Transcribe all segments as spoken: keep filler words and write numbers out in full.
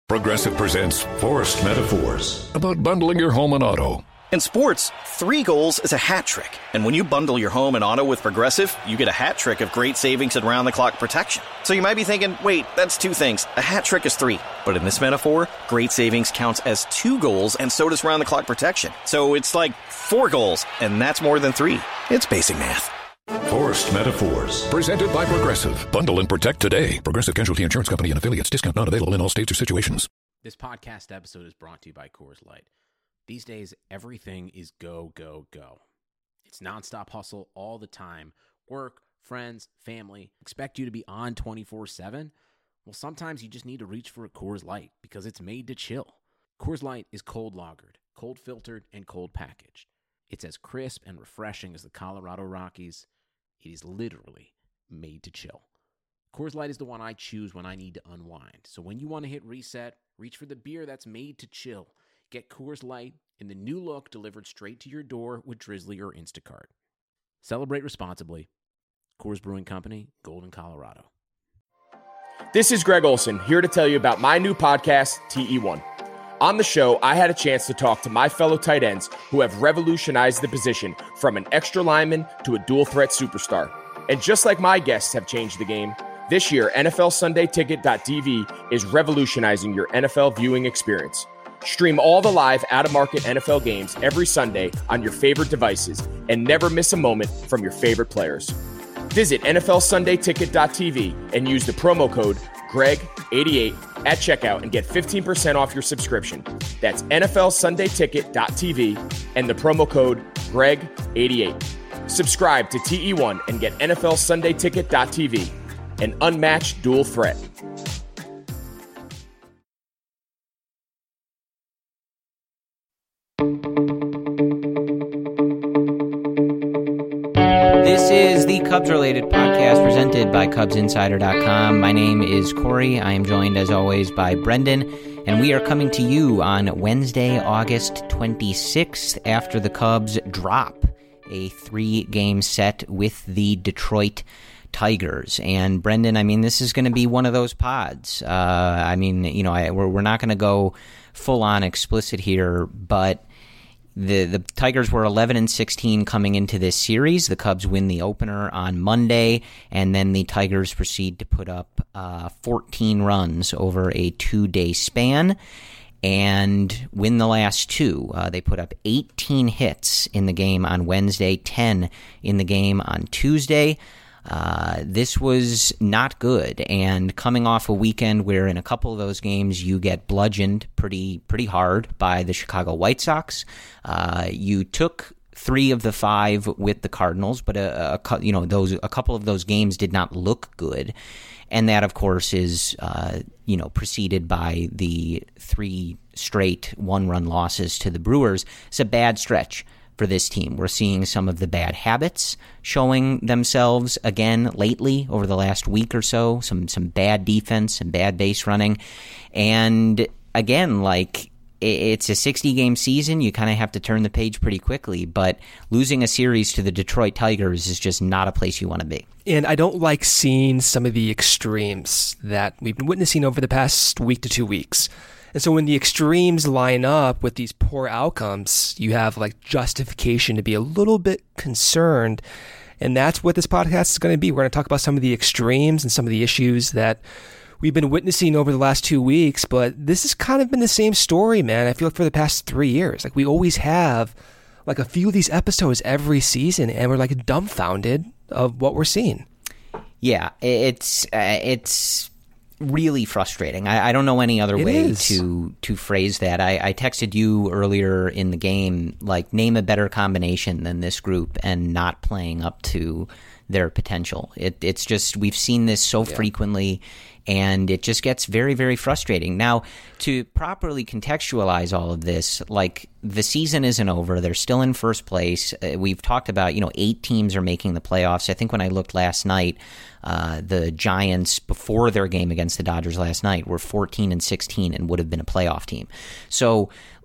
Progressive presents Forced Metaphors about bundling your home and auto. In sports, three goals is a hat trick. And when you bundle your home and auto with Progressive, you get a hat trick of great savings and round-the-clock protection. So you might be thinking, wait, that's two things. A hat trick is three. But in this metaphor, great savings counts as two goals, and so does round-the-clock protection. So it's like four goals, and that's more than three. It's basic math. Forced Metaphors. Presented by Progressive. Bundle and protect today. Progressive Casualty Insurance Company and affiliates. Discount not available in all states or situations. This podcast episode is brought to you by Coors Light. These days, everything is go, go, go. It's nonstop hustle all the time. Work, friends, family. Expect you to be on twenty-four seven? Well, sometimes you just need to reach for a Coors Light because it's made to chill. Coors Light is cold lagered, cold filtered, and cold packaged. It's as crisp and refreshing as the Colorado Rockies. It is literally made to chill. Coors Light is the one I choose when I need to unwind. So when you want to hit reset, reach for the beer that's made to chill. Get Coors Light in the new look delivered straight to your door with Drizzly or Instacart. Celebrate responsibly. Coors Brewing Company, Golden, Colorado. This is Greg Olson, here to tell you about my new podcast, T E one. On the show, I had a chance to talk to my fellow tight ends who have revolutionized the position from an extra lineman to a dual-threat superstar. And just like my guests have changed the game, this year, N F L Sunday Ticket dot T V is revolutionizing your N F L viewing experience. Stream all the live, out-of-market N F L games every Sunday on your favorite devices and never miss a moment from your favorite players. Visit N F L Sunday Ticket dot T V and use the promo code Greg eighty-eight at checkout and get fifteen percent off your subscription. That's N F L Sunday Ticket dot T V and the promo code Greg eighty-eight. Subscribe to T E one and get N F L Sunday Ticket dot T V, an unmatched dual threat. This is the Cubs-related podcast presented by Cubs Insider dot com. My name is Corey. I am joined, as always, by Brendan, and we are coming to you on Wednesday, August twenty-sixth, after the Cubs drop a three-game set with the Detroit Tigers. And Brendan, I mean, this is going to be one of those pods. Uh, I mean, you know, I, we're, we're not going to go full-on explicit here, but The the Tigers were eleven and sixteen coming into this series. The Cubs win the opener on Monday, and then the Tigers proceed to put up uh, fourteen runs over a two-day span and win the last two. Uh, they put up eighteen hits in the game on Wednesday, ten in the game on Tuesday. Uh, this was not good, and coming off a weekend where in a couple of those games you get bludgeoned pretty pretty hard by the Chicago White Sox. Uh, you took three of the five with the Cardinals, but a, a you know those a couple of those games did not look good, and that of course is uh, you know preceded by the three straight one-run losses to the Brewers. It's a bad stretch for this team. We're seeing some of the bad habits showing themselves again lately over the last week or so, some some bad defense and bad base running. And again, like, it's a sixty-game season. You kind of have to turn the page pretty quickly, but losing a series to the Detroit Tigers is just not a place you want to be. And I don't like seeing some of the extremes that we've been witnessing over the past week to two weeks. And so when the extremes line up with these poor outcomes, you have like justification to be a little bit concerned. And that's what this podcast is going to be. We're going to talk about some of the extremes and some of the issues that we've been witnessing over the last two weeks. But this has kind of been the same story, man. I feel like for the past three years, like we always have like a few of these episodes every season, and we're like dumbfounded of what we're seeing. Yeah, it's uh, it's really frustrating. I, I don't know any other it way is. to to phrase that. I, I texted you earlier in the game, like, name a better combination than this group and not playing up to their potential. It, it's just, we've seen this so yeah. frequently, and it just gets very, very frustrating. Now, to properly contextualize all of this, like, the season isn't over. They're still in first place. Uh, we've talked about, you know, eight teams are making the playoffs. I think when I looked last night, uh, the Giants, before their game against the Dodgers last night, were fourteen and sixteen and would have been a playoff team. So,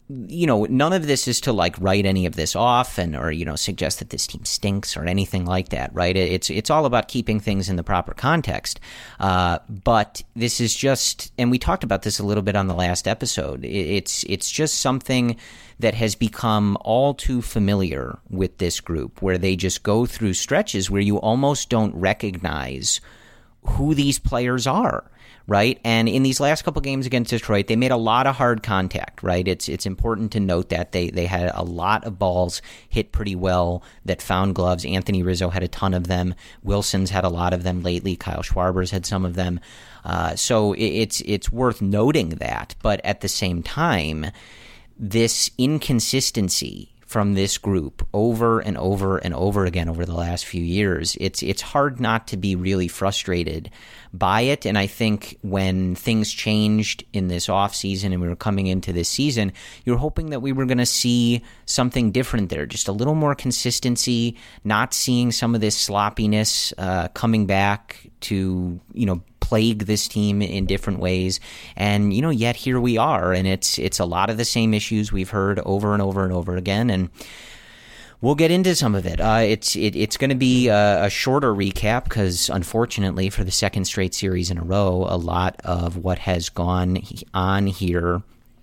you know, none of this is to like write any of this off and or, you know, suggest that this team stinks or anything like that, right? It's it's all about keeping things in the proper context. Uh, but this is just, and we talked about this a little bit on the last episode, it's it's just something that has become all too familiar with this group, where they just go through stretches where you almost don't recognize who these players are. Right. And in these last couple games against Detroit, they made a lot of hard contact. Right. It's it's important to note that they they had a lot of balls hit pretty well that found gloves. Anthony Rizzo had a ton of them. Wilson's had a lot of them lately. Kyle Schwarber's had some of them. Uh, so it, it's it's worth noting that. But at the same time, this inconsistency from this group over and over and over again over the last few years, it's it's hard not to be really frustrated by it. And I think when things changed in this offseason and we were coming into this season, you were hoping that we were going to see something different there, just a little more consistency, not seeing some of this sloppiness uh, coming back to, you know, plague this team in different ways. And, you know, yet here we are, and it's it's a lot of the same issues we've heard over and over and over again. And we'll get into some of it. Uh, it's it, it's going to be a, a shorter recap because, unfortunately, for the second straight series in a row, a lot of what has gone on here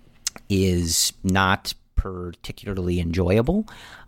is not particularly enjoyable.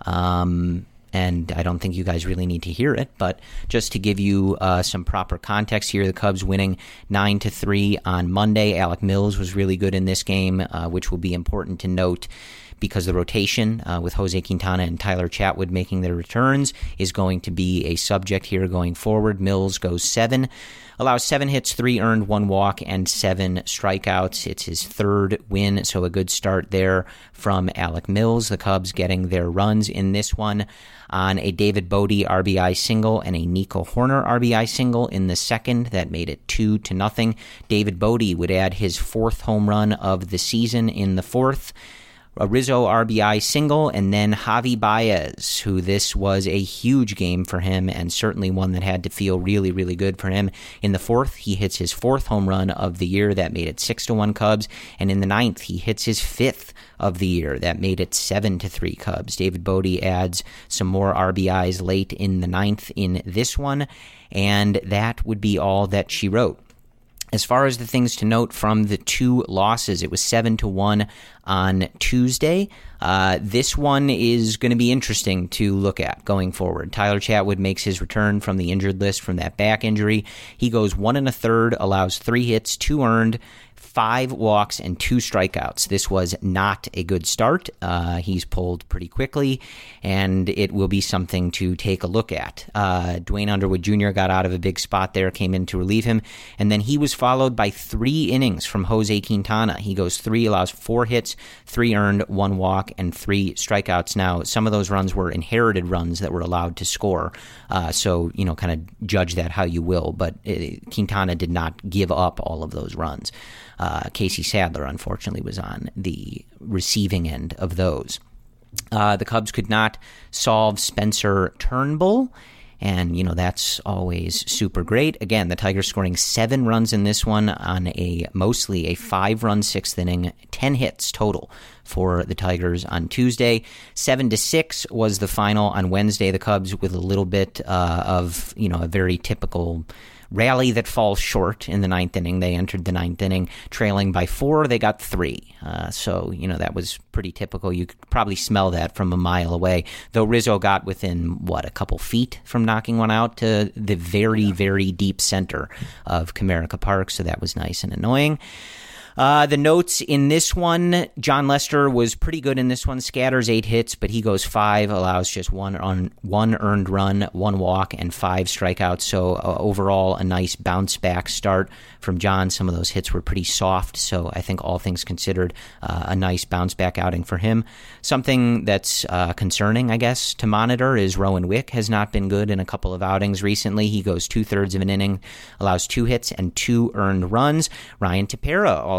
Um And I don't think you guys really need to hear it, but just to give you uh, some proper context here, the Cubs winning nine to three on Monday. Alec Mills was really good in this game, uh, which will be important to note because the rotation uh, with Jose Quintana and Tyler Chatwood making their returns is going to be a subject here going forward. Mills goes seven, allows seven hits, three earned, one walk, and seven strikeouts. It's his third win, so a good start there from Alec Mills. The Cubs getting their runs in this one on a David Bodie R B I single and a Nico Horner R B I single in the second. That made it two to nothing. David Bodie would add his fourth home run of the season in the fourth. A Rizzo R B I single, and then Javi Baez, who this was a huge game for him and certainly one that had to feel really, really good for him. In the fourth, he hits his fourth home run of the year. That made it six to one Cubs. And in the ninth, he hits his fifth of the year. That made it seven to three Cubs. David Bodie adds some more R B Is late in the ninth in this one, and that would be all that she wrote. As far as the things to note from the two losses, it was seven to one on Tuesday. Uh, this one is going to be interesting to look at going forward. Tyler Chatwood makes his return from the injured list from that back injury. He goes one and a third, allows three hits, two earned, five walks, and two strikeouts. This was not a good start. Uh, he's pulled pretty quickly, and it will be something to take a look at. Uh, Dwayne Underwood Junior got out of a big spot there, came in to relieve him, and then he was followed by three innings from Jose Quintana. He goes three, allows four hits, three earned, one walk, and three strikeouts. Now, some of those runs were inherited runs that were allowed to score, uh, so, you know, kind of judge that how you will, but uh, Quintana did not give up all of those runs. Uh, Casey Sadler, unfortunately, was on the receiving end of those. Uh, the Cubs could not solve Spencer Turnbull, and, you know, that's always super great. Again, the Tigers scoring seven runs in this one on a mostly a five-run sixth inning, ten hits total for the Tigers on Tuesday. Seven to six was the final on Wednesday. The Cubs with a little bit uh, of, you know, a very typical rally that falls short in the ninth inning. They entered the ninth inning trailing by four. They got three. Uh, so, you know, that was pretty typical. You could probably smell that from a mile away. Though Rizzo got within, what, a couple feet from knocking one out to the very, very deep center of Comerica Park. So that was nice and annoying. Uh, the notes in this one, John Lester was pretty good in this one, scatters eight hits, but he goes five, allows just one on one earned run, one walk, and five strikeouts. So uh, overall, a nice bounce back start from John. Some of those hits were pretty soft, so I think all things considered, uh, a nice bounce back outing for him. Something that's uh, concerning, I guess, to monitor is Rowan Wick has not been good in a couple of outings recently. He goes two thirds of an inning, allows two hits and two earned runs. Ryan Tepera also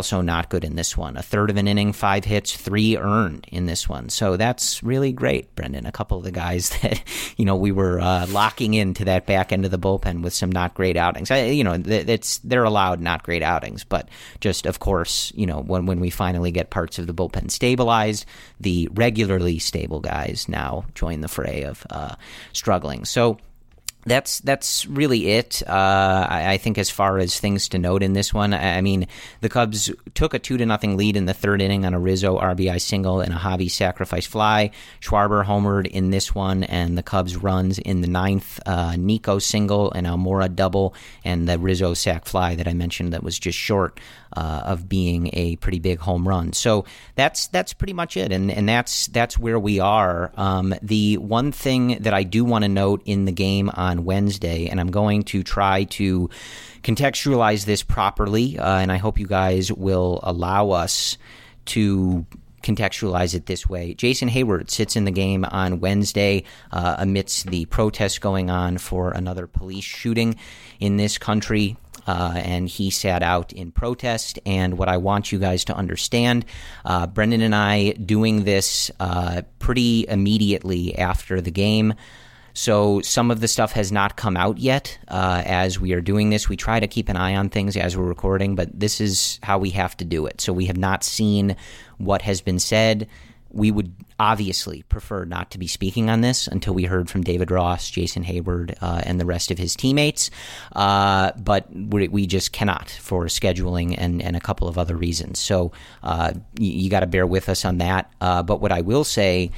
also not good in this one. A third of an inning, five hits, three earned in this one. So that's really great, Brendan. A couple of the guys that, you know, we were uh, locking into that back end of the bullpen with some not great outings. I, you know, it's they're allowed not great outings, but just, of course, you know, when, when we finally get parts of the bullpen stabilized, the regularly stable guys now join the fray of uh, struggling. So That's that's really it. Uh, I, I think as far as things to note in this one, I, I mean, the Cubs took a two to nothing lead in the third inning on a Rizzo R B I single and a Javi sacrifice fly. Schwarber homered in this one, and the Cubs runs in the ninth. Uh, Nico single and Almora double, and the Rizzo sac fly that I mentioned that was just short uh, of being a pretty big home run. So that's that's pretty much it, and and that's that's where we are. Um, the one thing that I do want to note in the game on Wednesday, and I'm going to try to contextualize this properly, uh, and I hope you guys will allow us to contextualize it this way. Jason Heyward sits in the game on Wednesday uh, amidst the protests going on for another police shooting in this country. Uh, and he sat out in protest. And what I want you guys to understand, uh, Brendan and I doing this uh, pretty immediately after the game. So some of the stuff has not come out yet uh, as we are doing this. We try to keep an eye on things as we're recording, but this is how we have to do it. So we have not seen what has been said. We would obviously prefer not to be speaking on this until we heard from David Ross, Jason Heyward, uh, and the rest of his teammates. Uh, but we, we just cannot for scheduling and, and a couple of other reasons. So uh, you, you got to bear with us on that. Uh, but what I will say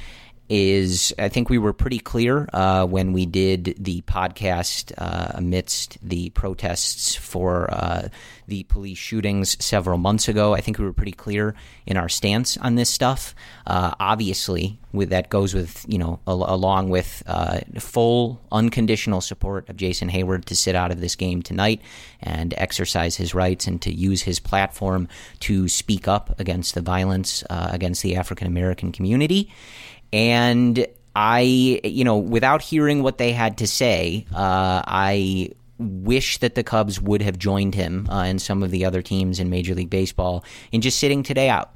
is I think we were pretty clear uh, when we did the podcast uh, amidst the protests for uh, the police shootings several months ago. I think we were pretty clear in our stance on this stuff. Uh, obviously, with that goes with, you know, al- along with uh, full unconditional support of Jason Heyward to sit out of this game tonight and exercise his rights and to use his platform to speak up against the violence uh, against the African American community. And I, you know, without hearing what they had to say, uh, I wish that the Cubs would have joined him uh, and some of the other teams in Major League Baseball in just sitting today out.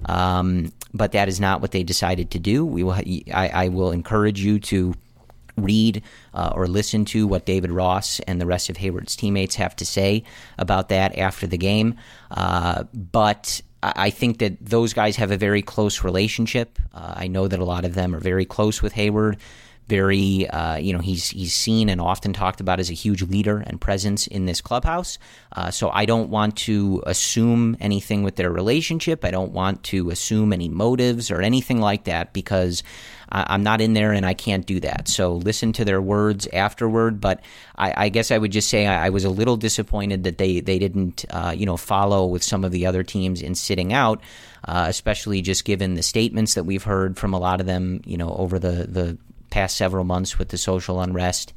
Um, but that is not what they decided to do. We will. I, I will encourage you to read uh, or listen to what David Ross and the rest of Heyward's teammates have to say about that after the game. Uh, but I think that those guys have a very close relationship. Uh, I know that a lot of them are very close with Heyward. Very, uh, you know, he's he's seen and often talked about as a huge leader and presence in this clubhouse. Uh, so I don't want to assume anything with their relationship. I don't want to assume any motives or anything like that because I, I'm not in there and I can't do that. So listen to their words afterward. But I, I guess I would just say I, I was a little disappointed that they they didn't, uh, you know, follow with some of the other teams in sitting out, uh, especially just given the statements that we've heard from a lot of them, you know, over the the past several months with the social unrest.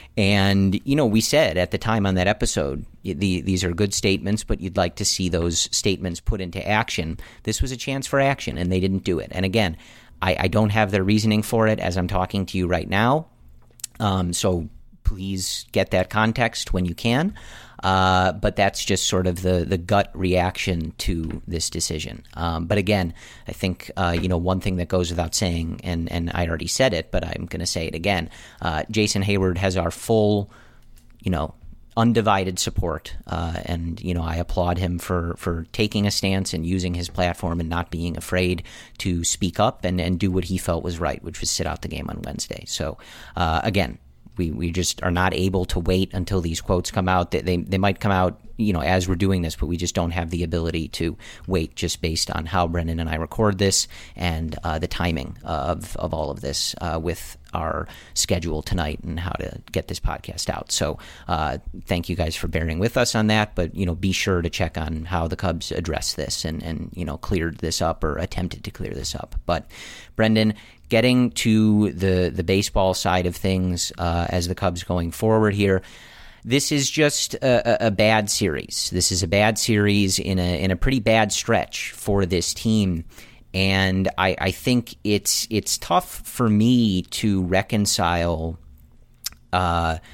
And, you know, we said at the time on that episode, the, these are good statements, but you'd like to see those statements put into action. This was a chance for action, and they didn't do it. And again, I, I don't have their reasoning for it as I'm talking to you right now. Um, so please get that context when you can. Uh, but that's just sort of the, the gut reaction to this decision. Um, but again, I think, uh, you know, one thing that goes without saying, and, and I already said it, but I'm going to say it again, uh, Jason Heyward has our full, you know, undivided support. Uh, and, you know, I applaud him for, for taking a stance and using his platform and not being afraid to speak up and, and do what he felt was right, which was sit out the game on Wednesday. So, uh, again, We we just are not able to wait until these quotes come out. They, they they might come out, you know, as we're doing this, but we just don't have the ability to wait just based on how Brendan and I record this and uh, the timing of, of all of this uh, with our schedule tonight and how to get this podcast out. So uh, thank you guys for bearing with us on that. But, you know, be sure to check on how the Cubs address this and, and you know, cleared this up or attempted to clear this up. But Brendan, getting to the, the baseball side of things uh, as the Cubs going forward here, this is just a, a bad series. This is a bad series in a in a pretty bad stretch for this team, and I, I think it's it's tough for me to reconcile, uh,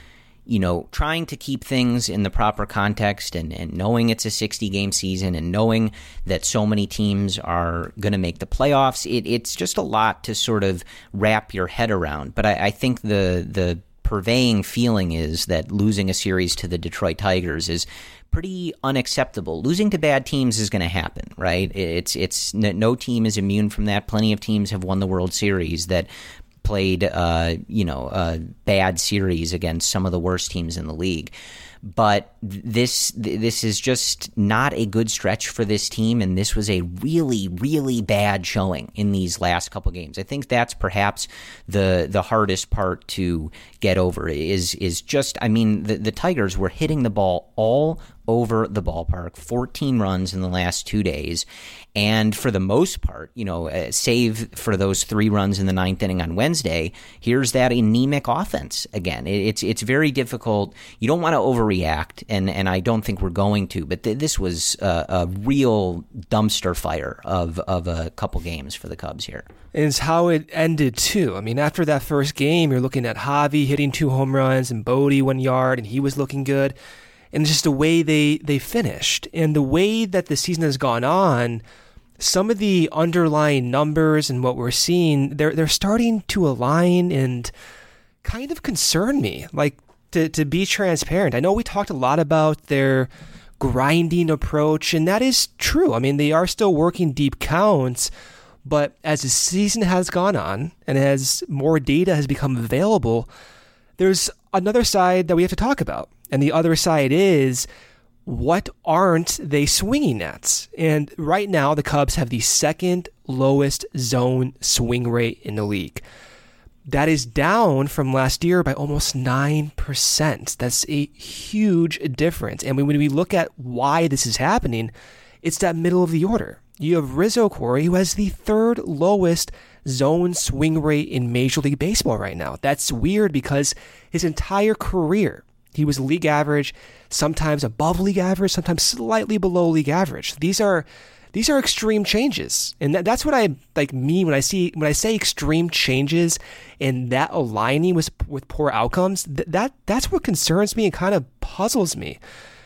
you know, trying to keep things in the proper context and, and knowing it's a sixty-game season and knowing that so many teams are going to make the playoffs, it, it's just a lot to sort of wrap your head around. But I, I think the the purveying feeling is that losing a series to the Detroit Tigers is pretty unacceptable. Losing to bad teams is going to happen, right? It's it's no team is immune from that. Plenty of teams have won the World Series that played, uh, you know, a bad series against some of the worst teams in the league. But this this is just not a good stretch for this team, and this was a really, really bad showing in these last couple games. I think that's perhaps the the hardest part to get over is is just, I mean, the, the Tigers were hitting the ball all over the ballpark, fourteen runs in the last two days. And for the most part, you know, uh, save for those three runs in the ninth inning on Wednesday, here's that anemic offense again. It, it's it's very difficult. You don't want to overreact, and, and I don't think we're going to, but th- this was a, a real dumpster fire of, of a couple games for the Cubs here. And it's how it ended, too. I mean, after that first game, you're looking at Javi hitting two home runs and Bodie one yard, and he was looking good. And it's just the way they, they finished. And the way that the season has gone on, some of the underlying numbers and what we're seeing, they're they're starting to align and kind of concern me. Like, to, to be transparent, I know we talked a lot about their grinding approach, and that is true. I mean, they are still working deep counts, but as the season has gone on and as more data has become available, there's another side that we have to talk about. And the other side is, what aren't they swinging at? And right now, the Cubs have the second lowest zone swing rate in the league. That is down from last year by almost nine percent. That's a huge difference. And when we look at why this is happening, it's that middle of the order. You have Rizzo, Corey, who has the third lowest zone swing rate in Major League Baseball right now. That's weird because his entire career, he was league average, sometimes above league average, sometimes slightly below league average. These are these are extreme changes, and that, that's what I like mean when I see when I say extreme changes and that aligning with with poor outcomes. Th- that that's what concerns me and kind of puzzles me.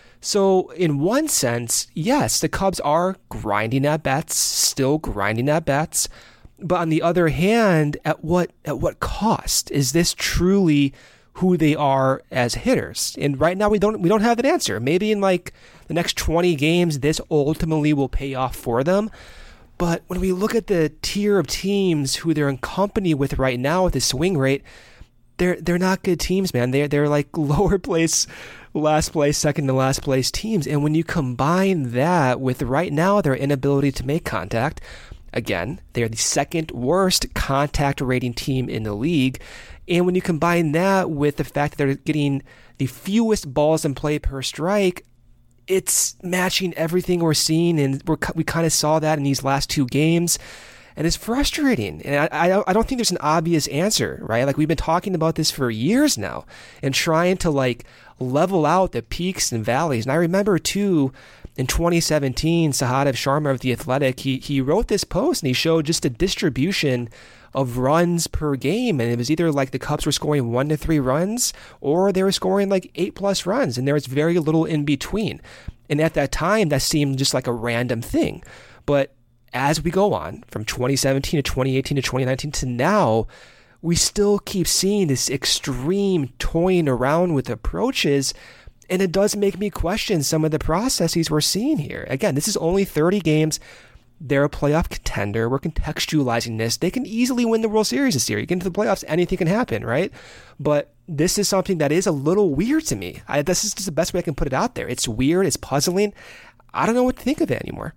So in one sense, yes, the Cubs are grinding at bats, still grinding at bats, but on the other hand, at what at what cost? Is this truly who they are as hitters? And right now we don't we don't have an answer. Maybe in like the next twenty games, this ultimately will pay off for them. But when we look at the tier of teams who they're in company with right now with the swing rate, they're they're not good teams, man. They're they're like lower place, last place, second to last place teams. And when you combine that with right now their inability to make contact, again, they're the second worst contact rating team in the league. And when you combine that with the fact that they're getting the fewest balls in play per strike, it's matching everything we're seeing. And we're, we kind of saw that in these last two games. And it's frustrating. And I, I, I don't think there's an obvious answer, right? Like, we've been talking about this for years now and trying to, like, level out the peaks and valleys. And I remember, too, in twenty seventeen, Sahadev Sharma of The Athletic, he, he wrote this post and he showed just the distribution of runs per game, and it was either like the Cubs were scoring one to three runs or they were scoring like eight plus runs, and there was very little in between. And at that time, that seemed just like a random thing. But as we go on from twenty seventeen to twenty eighteen to twenty nineteen to now, we still keep seeing this extreme toying around with approaches, and it does make me question some of the processes we're seeing here. Again, this is only thirty games. They're a playoff contender. We're contextualizing this. They can easily win the World Series this year. You get into the playoffs, anything can happen, right? But this is something that is a little weird to me. I, this is just the best way I can put it out there. It's weird. It's puzzling. I don't know what to think of it anymore.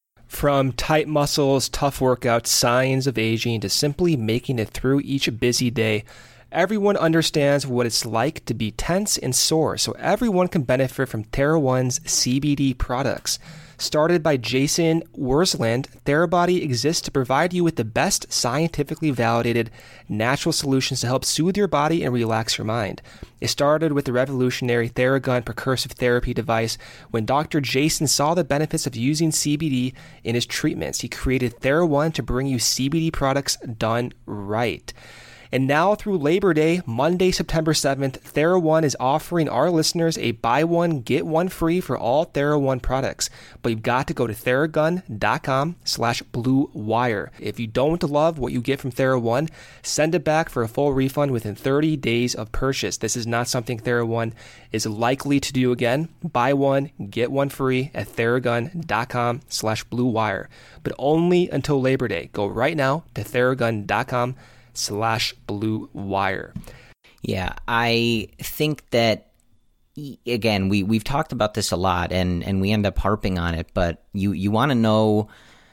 From tight muscles, tough workouts, signs of aging, to simply making it through each busy day, everyone understands what it's like to be tense and sore, so everyone can benefit from TheraOne's C B D products. Started by Jason Wursland, TheraBody exists to provide you with the best scientifically validated natural solutions to help soothe your body and relax your mind. It started with the revolutionary Theragun percussive therapy device. When Doctor Jason saw the benefits of using C B D in his treatments, he created TheraOne to bring you C B D products done right. And now through Labor Day, Monday, September seventh, TheraOne is offering our listeners a buy one, get one free for all TheraOne products. But you've got to go to Theragun.com slash Blue Wire. If you don't love what you get from TheraOne, send it back for a full refund within thirty days of purchase. This is not something TheraOne is likely to do again. Buy one, get one free at Theragun.com slash Blue Wire. But only until Labor Day. Go right now to Theragun.com slash Blue Wire. Yeah, I think that, again, we, we've talked about this a lot, and, and we end up harping on it, but you, you want to know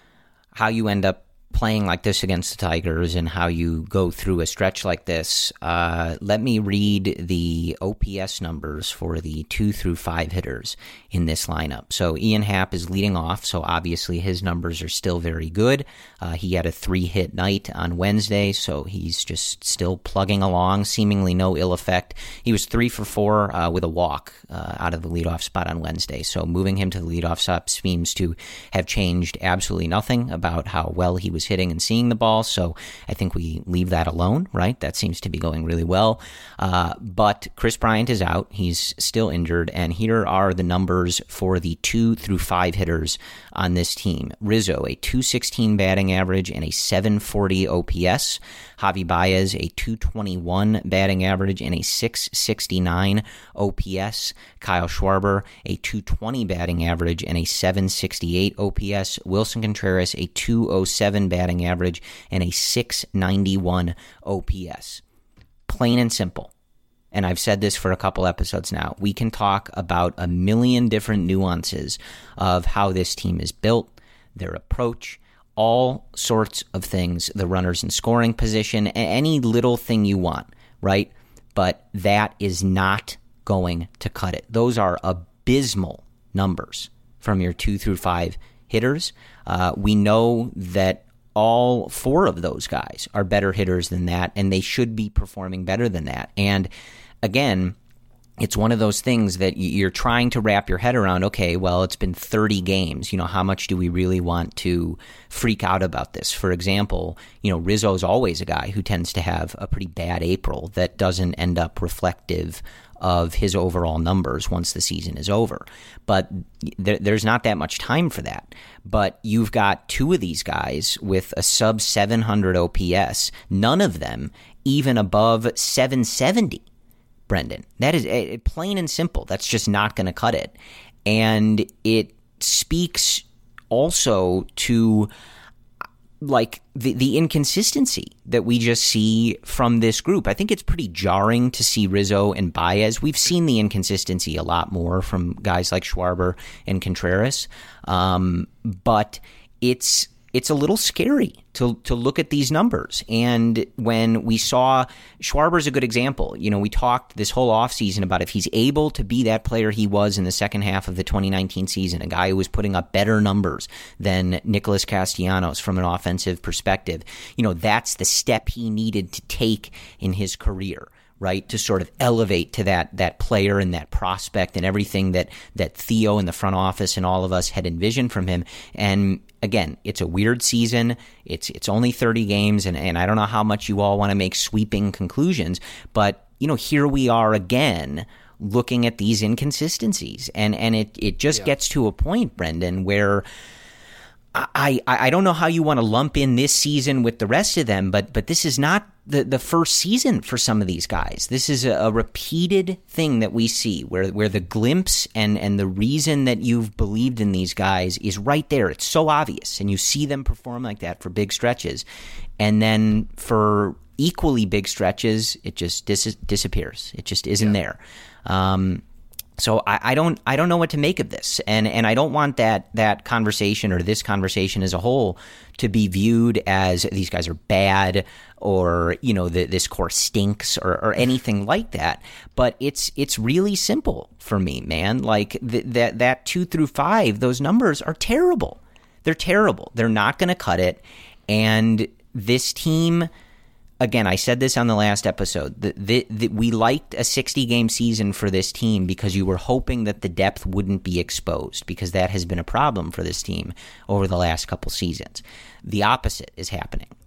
how you end up playing like this against the Tigers and how you go through a stretch like this. Uh, let me read the O P S numbers for the two through five hitters in this lineup. So Ian Happ is leading off, so obviously his numbers are still very good. Uh, he had a three-hit night on Wednesday, so he's just still plugging along, seemingly no ill effect. He was three for four uh, with a walk uh, out of the leadoff spot on Wednesday, so moving him to the leadoff spot seems to have changed absolutely nothing about how well he was hitting and seeing the ball, so I think we leave that alone, right? That seems to be going really well. Uh, but Chris Bryant is out. He's still injured, and here are the numbers for the two through five hitters on this team. Rizzo, a two sixteen batting average and a seven forty O P S. Javi Baez, a two twenty-one batting average and a six sixty-nine O P S. Kyle Schwarber, a two twenty batting average and a seven sixty-eight O P S. Wilson Contreras, a two oh seven batting average and a six ninety-one O P S. Plain and simple. And I've said this for a couple episodes now. We can talk about a million different nuances of how this team is built, their approach, all sorts of things, the runners in scoring position, any little thing you want, right? But that is not going to cut it. Those are abysmal numbers from your two through five hitters. Uh, we know that all four of those guys are better hitters than that, and they should be performing better than that. And again, it's one of those things that you're trying to wrap your head around. Okay, well, it's been thirty games. You know, how much do we really want to freak out about this? For example, you know, Rizzo's always a guy who tends to have a pretty bad April that doesn't end up reflective of his overall numbers once the season is over. But there, there's not that much time for that. But you've got two of these guys with a sub seven hundred O P S, none of them even above seven seventy. Brendan, that is uh, plain and simple. That's just not going to cut it. And it speaks also to like the, the inconsistency that we just see from this group. I think it's pretty jarring to see Rizzo and Baez. We've seen the inconsistency a lot more from guys like Schwarber and Contreras. Um, but it's it's a little scary to to look at these numbers. And when we saw Schwarber's a good example. You know, we talked this whole offseason about if he's able to be that player he was in the second half of the twenty nineteen season, a guy who was putting up better numbers than Nicholas Castellanos from an offensive perspective, you know, that's the step he needed to take in his career, right, to sort of elevate to that that player and that prospect and everything that that Theo in the front office and all of us had envisioned from him. And again, it's a weird season. It's it's only thirty games, and, and I don't know how much you all want to make sweeping conclusions, but you know, here we are again looking at these inconsistencies. And and it, it just yeah. gets to a point, Brendan, where I, I, I don't know how you want to lump in this season with the rest of them, but but this is not the, the first season for some of these guys. This is a, a repeated thing that we see where where the glimpse and, and the reason that you've believed in these guys is right there. It's so obvious, and you see them perform like that for big stretches. And then for equally big stretches, it just dis- disappears. It just isn't yeah. there. Um So I, I don't I don't know what to make of this, and and I don't want that that conversation or this conversation as a whole to be viewed as these guys are bad or you know the, this core stinks or, or anything like that. But it's it's really simple for me, man. Like th- that that two through five, those numbers are terrible. They're terrible. They're not going to cut it, and this team. Again, I said this on the last episode, that the, the, we liked a sixty-game season for this team because you were hoping that the depth wouldn't be exposed, because that has been a problem for this team over the last couple seasons. The opposite is happening.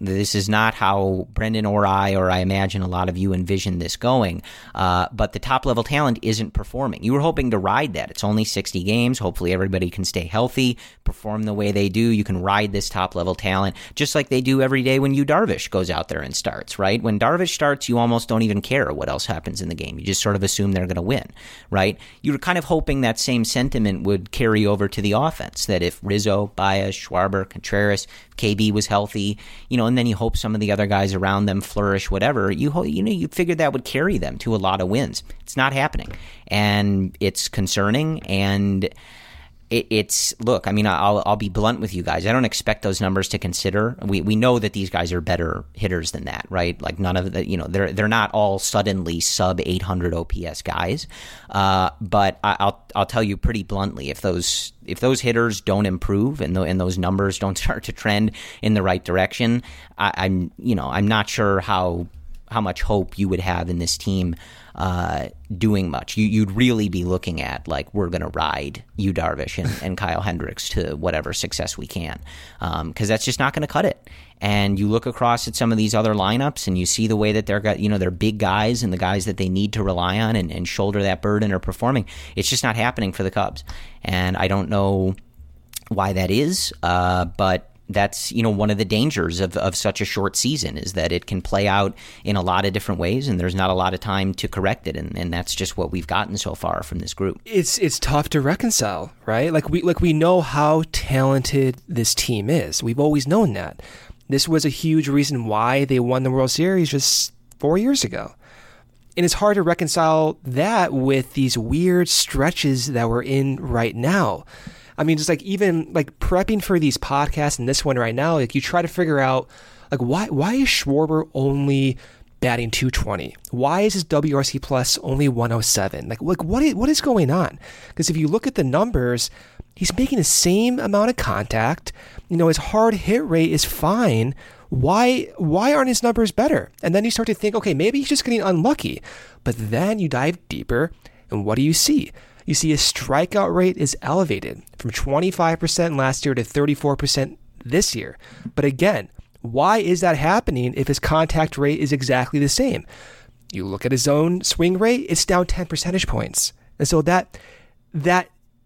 This is not how Brendan or I, or I imagine a lot of you envision this going. Uh, but the top-level talent isn't performing. You were hoping to ride that. It's only sixty games. Hopefully everybody can stay healthy, perform the way they do. You can ride this top-level talent just like they do every day when Yu Darvish goes out there and starts, right? When Darvish starts, you almost don't even care what else happens in the game. You just sort of assume they're going to win, right? You were kind of hoping that same sentiment would carry over to the offense, that if Rizzo, Baez, Schwarber, Contreras, K B was healthy, you know, and then you hope some of the other guys around them flourish, whatever, you ho- you know, you figured that would carry them to a lot of wins. It's not happening. And it's concerning, and it, it's, look, I mean, I'll I'll be blunt with you guys. I don't expect those numbers to consider. We we know that these guys are better hitters than that, right? Like none of the, you know, they're they're not all suddenly sub eight hundred O P S guys. Uh, but I, I'll I'll tell you pretty bluntly, if those if those hitters don't improve and, the, and those numbers don't start to trend in the right direction, I, I'm you know I'm not sure how how much hope you would have in this team uh, doing much. You, you'd really be looking at, like, we're going to ride Yu Darvish and, and Kyle Hendricks to whatever success we can, because um, that's just not going to cut it. And you look across at some of these other lineups and you see the way that they're got, you know, they're big guys and the guys that they need to rely on and, and shoulder that burden are performing. It's just not happening for the Cubs. And I don't know why that is, uh, but that's, you know, one of the dangers of, of such a short season is that it can play out in a lot of different ways and there's not a lot of time to correct it. And, and that's just what we've gotten so far from this group. It's it's tough to reconcile, right? Like we like we know how talented this team is. We've always known that. This was a huge reason why they won the World Series just four years ago. And it's hard to reconcile that with these weird stretches that we're in right now. I mean, just like even like prepping for these podcasts and this one right now, like you try to figure out like why why is Schwarber only batting two twenty? Why is his W R C plus only one oh seven? Like like what is, what is going on? Because if you look at the numbers, he's making the same amount of contact. You know, his hard hit rate is fine. Why why aren't his numbers better? And then you start to think, okay, maybe he's just getting unlucky. But then you dive deeper, and what do you see? You see his strikeout rate is elevated from twenty-five percent last year to thirty-four percent this year. But again, why is that happening if his contact rate is exactly the same? You look at his own swing rate, it's down ten percentage points. And so that that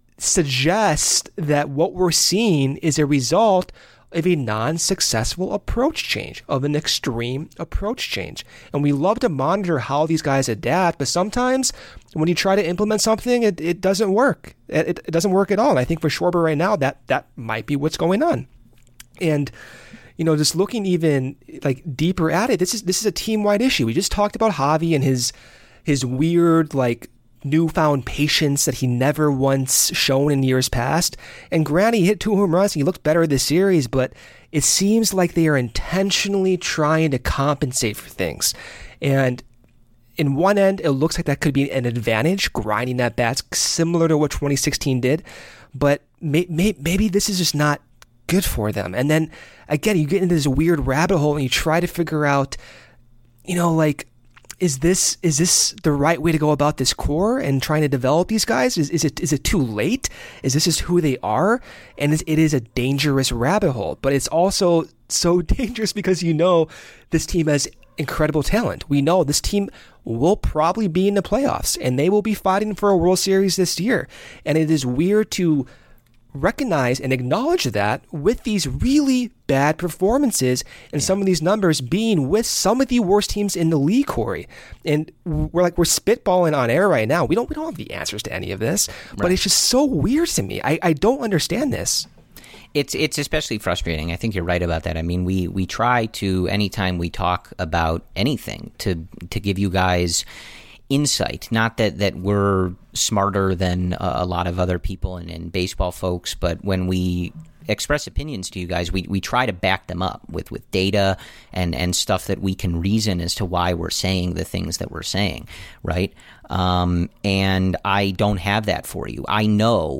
suggests that what we're seeing is a result of a non-successful approach change, of an extreme approach change. And we love to monitor how these guys adapt, but sometimes when you try to implement something, it, it doesn't work. It, it doesn't work at all. And I think for Schwarber right now, that that might be what's going on. And, you know, just looking even like deeper at it, this is this is a team-wide issue. We just talked about Javi and his his weird, like, newfound patience that he never once shown in years past. And granted, he hit two home runs and he looked better this series, but it seems like they are intentionally trying to compensate for things. And in one end, it looks like that could be an advantage, grinding that bat similar to what twenty sixteen did. But may, may, maybe this is just not good for them. And then again, you get into this weird rabbit hole and you try to figure out, you know, like, Is this is this the right way to go about this core and trying to develop these guys? Is is it is it too late? Is this just who they are? And it, it is a dangerous rabbit hole, but it's also so dangerous because you know this team has incredible talent. We know this team will probably be in the playoffs and they will be fighting for a World Series this year. And it is weird to recognize and acknowledge that with these really bad performances and yeah. some of these numbers being with some of the worst teams in the league, Corey. And we're like, we're spitballing on air right now. We don't, we don't have the answers to any of this, right. But it's just so weird to me. I, I don't understand this. It's it's especially frustrating. I think you're right about that. I mean, we we try to, anytime we talk about anything, to to give you guys insight. Not that, that we're smarter than a, a lot of other people and, and baseball folks, but when we express opinions to you guys, we, we try to back them up with, with data and, and stuff that we can reason as to why we're saying the things that we're saying, right? Um, and I don't have that for you. I know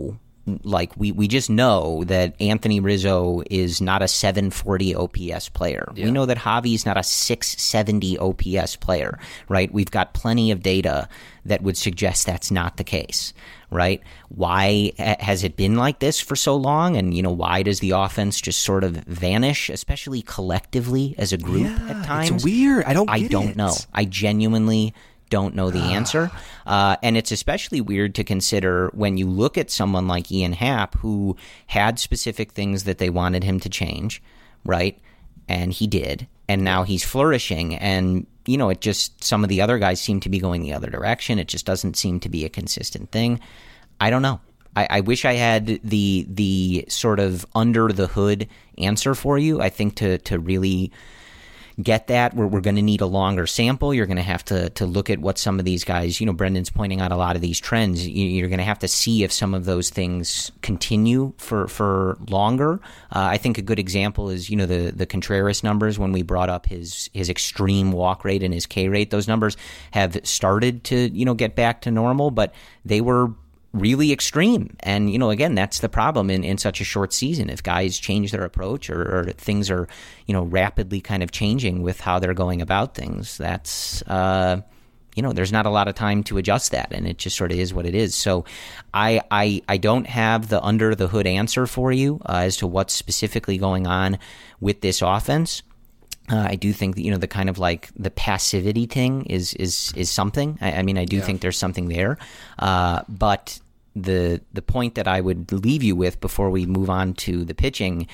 like we, we just know that Anthony Rizzo is not a seven forty O P S player. Yeah. We know that Javi's not a six seventy O P S player, right? We've got plenty of data that would suggest that's not the case, right? Why has it been like this for so long? And, you know, why does the offense just sort of vanish, especially collectively as a group yeah, at times? It's weird. I don't I get don't it. know. I genuinely don't know the answer. Uh, and it's especially weird to consider when you look at someone like Ian Happ, who had specific things that they wanted him to change, right? And he did. And now he's flourishing. And, you know, it just, some of the other guys seem to be going the other direction. It just doesn't seem to be a consistent thing. I don't know. I, I wish I had the the sort of under the hood answer for you. I think to to really get that, we're, we're going to need a longer sample. You're going to have to to look at what some of these guys, you know, Brendan's pointing out a lot of these trends. You, you're going to have to see if some of those things continue for, for longer. Uh, I think a good example is, you know, the, the Contreras numbers when we brought up his, his extreme walk rate and his K rate. Those numbers have started to, you know, get back to normal, but they were really extreme. And, you know, again, that's the problem in, in such a short season. If guys change their approach or, or things are, you know, rapidly kind of changing with how they're going about things, that's, uh, you know, there's not a lot of time to adjust that. And it just sort of is what it is. So I, I, I don't have the under the hood answer for you uh, as to what's specifically going on with this offense. Uh, I do think that, you know, the kind of like the passivity thing is is is something. I, I mean, I do yeah. think there's something there. Uh, but the the point that I would leave you with before we move on to the pitching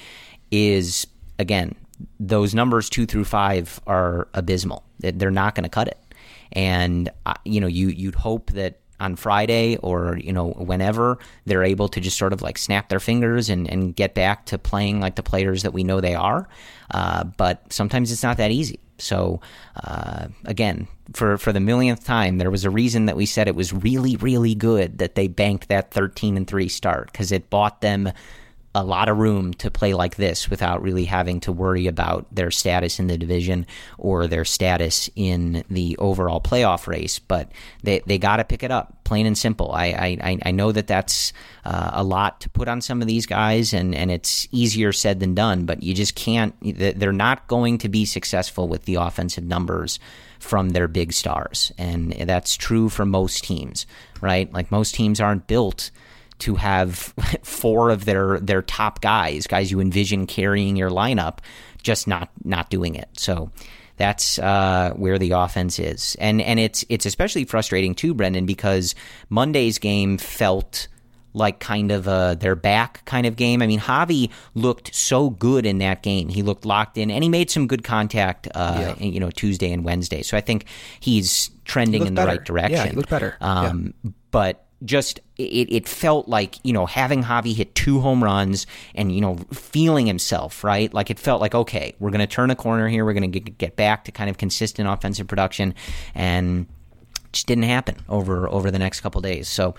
is, again, those numbers two through five are abysmal. They're not going to cut it. And, uh, you know, you, you'd hope that on Friday or, you know, whenever they're able to just sort of like snap their fingers and, and get back to playing like the players that we know they are. Uh, but sometimes it's not that easy. So, uh, again, for, for the millionth time, there was a reason that we said it was really, really good that they banked that thirteen and three start, because it bought them a lot of room to play like this without really having to worry about their status in the division or their status in the overall playoff race. But they, they got to pick it up, plain and simple. I I, I know that that's uh, a lot to put on some of these guys, and, and it's easier said than done, but you just can't. They're not going to be successful with the offensive numbers from their big stars, and that's true for most teams, right? Like, most teams aren't built to have four of their, their top guys, guys you envision carrying your lineup, just not not doing it. So that's uh, where the offense is. And and it's it's especially frustrating too, Brendan, because Monday's game felt like kind of a their back kind of game. I mean, Javi looked so good in that game. He looked locked in, and he made some good contact, uh, yeah. you know, Tuesday and Wednesday. So I think he's trending he in the better. right direction. Yeah, he looked better. Um, yeah. But just it, it felt like, you know, having Javi hit two home runs and, you know, feeling himself, right? Like, it felt like, okay, we're going to turn a corner here. We're going to get back to kind of consistent offensive production, and it just didn't happen over over the next couple days. So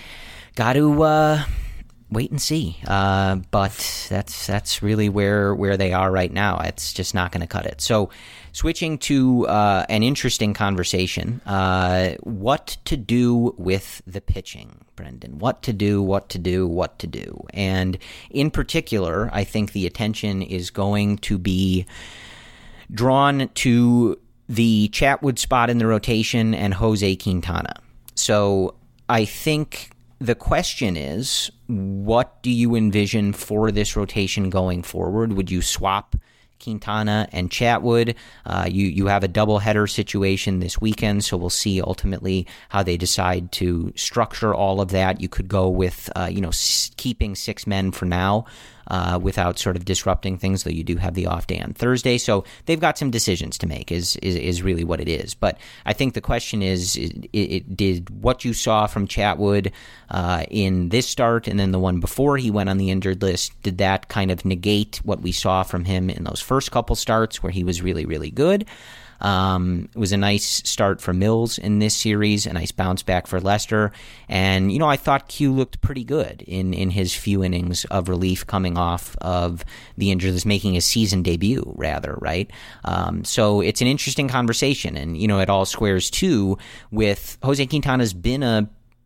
got to uh, wait and see. Uh, but that's that's really where where they are right now. It's just not going to cut it. So switching to uh, an interesting conversation, uh, what to do with the pitching, Brendan. What to do, what to do, what to do. And in particular, I think the attention is going to be drawn to the Chatwood spot in the rotation and Jose Quintana. So I think the question is, what do you envision for this rotation going forward? Would you swap Quintana and Chatwood? Uh, you you have a doubleheader situation this weekend, so we'll see ultimately how they decide to structure all of that. You could go with uh, you know s- keeping six men for now, uh, without sort of disrupting things, though you do have the off day on Thursday. So they've got some decisions to make, is is, is really what it is. But I think the question is, it, it, did what you saw from Chatwood uh, in this start and then the one before he went on the injured list, did that kind of negate what we saw from him in those first couple starts where he was really, really good? Um, it was a nice start for Mills in this series, a nice bounce back for Lester. And, you know, I thought Q looked pretty good in, in his few innings of relief coming off of the injuries, making his season debut, rather, right? Um, so it's an interesting conversation. And, you know, it all squares, too, with Jose Quintana's been a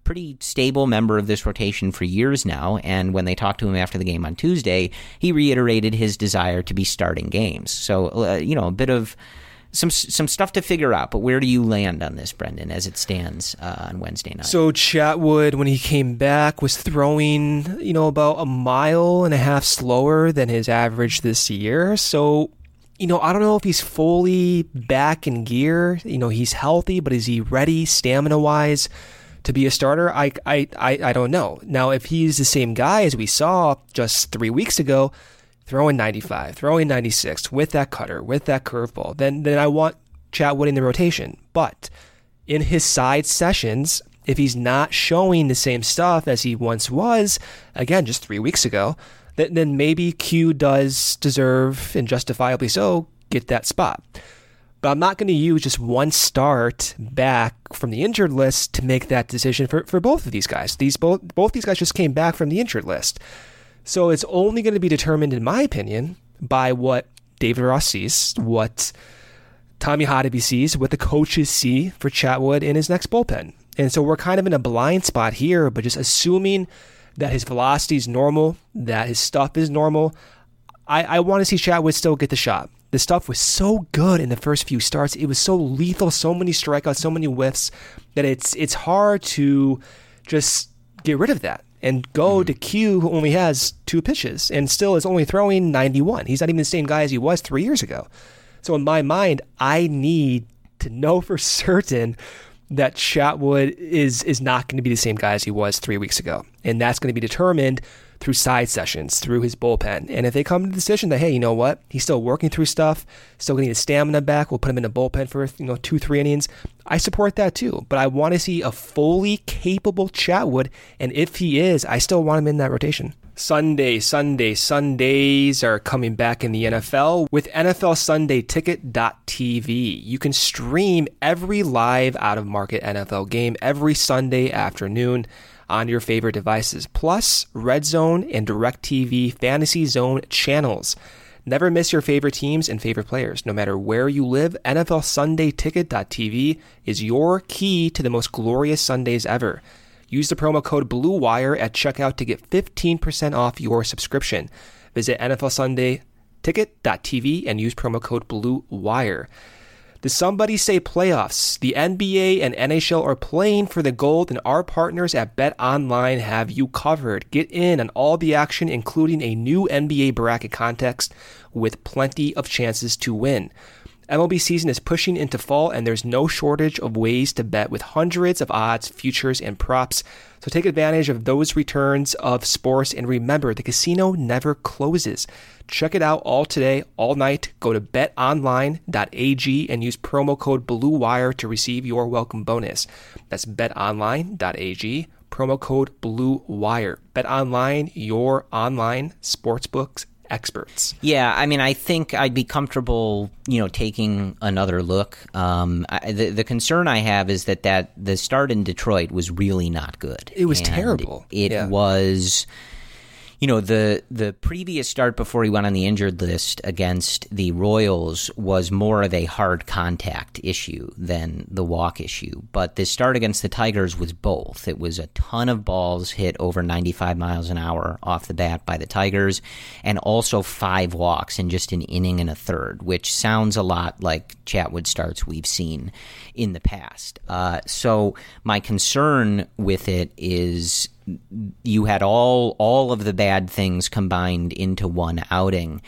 pretty stable member of this rotation for years now, and when they talked to him after the game on Tuesday, he reiterated his desire to be starting games. So, uh, you know, a bit of some some stuff to figure out, but where do you land on this, Brendan, as it stands uh, on Wednesday night? So Chatwood, when he came back, was throwing, you know, about a mile and a half slower than his average this year. So, you know, I don't know if he's fully back in gear. You know, he's healthy, but is he ready stamina-wise to be a starter? I, I, I, I don't know. Now, if he's the same guy as we saw just three weeks ago, throwing ninety-five, throwing ninety-six, with that cutter, with that curveball, then then I want Chatwood in the rotation. But in his side sessions, if he's not showing the same stuff as he once was, again, just three weeks ago, then, then maybe Q does deserve, and justifiably so, get that spot. But I'm not going to use just one start back from the injured list to make that decision for, for both of these guys. These both both these guys just came back from the injured list. So it's only going to be determined, in my opinion, by what David Ross sees, what Tommy Hotteby sees, what the coaches see for Chatwood in his next bullpen. And so we're kind of in a blind spot here, but just assuming that his velocity is normal, that his stuff is normal, I, I want to see Chatwood still get the shot. The stuff was so good in the first few starts. It was so lethal, so many strikeouts, so many whiffs, that it's it's hard to just get rid of that and go mm-hmm. to Q, who only has two pitches and still is only throwing ninety-one. He's not even the same guy as he was three years ago. So in my mind, I need to know for certain that Chatwood is is not going to be the same guy as he was three weeks ago. And that's going to be determined through side sessions, through his bullpen. And if they come to the decision that, hey, you know what, he's still working through stuff, still getting his stamina back, we'll put him in the bullpen for, you know, two, three innings, I support that too. But I want to see a fully capable Chatwood, and if he is, I still want him in that rotation. Sunday, Sunday, Sundays are coming back in the N F L with N F L Sunday Ticket dot T V. You can stream every live out-of-market N F L game every Sunday afternoon on your favorite devices, plus Red Zone and DirecTV Fantasy Zone channels. Never miss your favorite teams and favorite players. No matter where you live, N F L Sunday Ticket dot T V is your key to the most glorious Sundays ever. Use the promo code BLUEWIRE at checkout to get fifteen percent off your subscription. Visit N F L Sunday Ticket dot T V and use promo code BLUEWIRE. The Somebody Say playoffs. The N B A and N H L are playing for the gold, and our partners at BetOnline have you covered. Get in on all the action, including a new N B A bracket contest with plenty of chances to win. M L B season is pushing into fall, and there's no shortage of ways to bet with hundreds of odds, futures, and props. So take advantage of those returns of sports, and remember, the casino never closes. Check it out all today, all night. Go to bet online dot a g and use promo code BLUEWIRE to receive your welcome bonus. That's bet online dot a g, promo code BLUEWIRE. BetOnline, your online sportsbooks experts. Yeah, I mean, I think I'd be comfortable, you know, taking another look. Um, I, the the concern I have is that that the start in Detroit was really not good. It was and terrible. It yeah. was, you know, the the previous start before he went on the injured list against the Royals was more of a hard contact issue than the walk issue. But this start against the Tigers was both. It was a ton of balls hit over ninety-five miles an hour off the bat by the Tigers, and also five walks in just an inning and a third, which sounds a lot like Chatwood starts we've seen in the past. Uh, so my concern with it is you had all all of the bad things combined into one outing,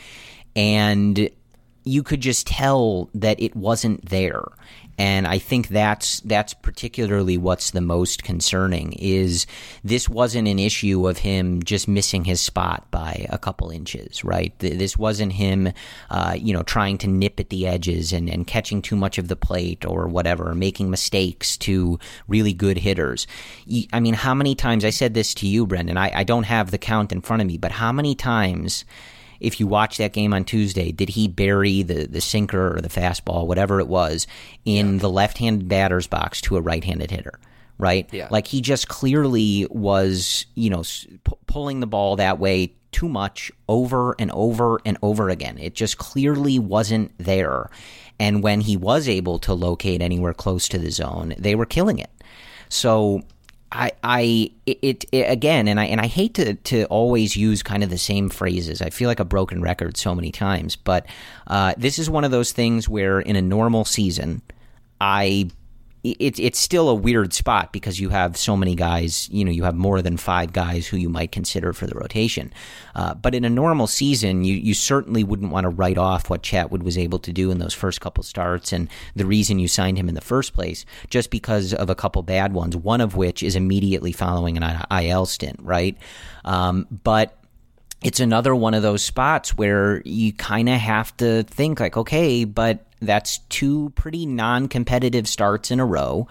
and you could just tell that it wasn't there. And I think that's that's particularly what's the most concerning, is this wasn't an issue of him just missing his spot by a couple inches, right? This wasn't him, uh, you know, trying to nip at the edges and, and catching too much of the plate or whatever, making mistakes to really good hitters. I mean, how many times, I said this to you, Brendan, I, I don't have the count in front of me, but how many times, if you watch that game on Tuesday, did he bury the, the sinker or the fastball, whatever it was, in yeah. the left-handed batter's box to a right-handed hitter, right? Yeah. Like, he just clearly was, you know, p- pulling the ball that way too much over and over and over again. It just clearly wasn't there. And when he was able to locate anywhere close to the zone, they were killing it. So I, I, it, it again, and I, and I hate to, to always use kind of the same phrases. I feel like a broken record so many times, but uh, this is one of those things where in a normal season, I, it, it's still a weird spot because you have so many guys, you know, you have more than five guys who you might consider for the rotation. Uh, but in a normal season, you, you certainly wouldn't want to write off what Chatwood was able to do in those first couple starts and the reason you signed him in the first place, just because of a couple bad ones, one of which is immediately following an I L stint, right? Um, but it's another one of those spots where you kind of have to think like, okay, but that's two pretty non-competitive starts in a row.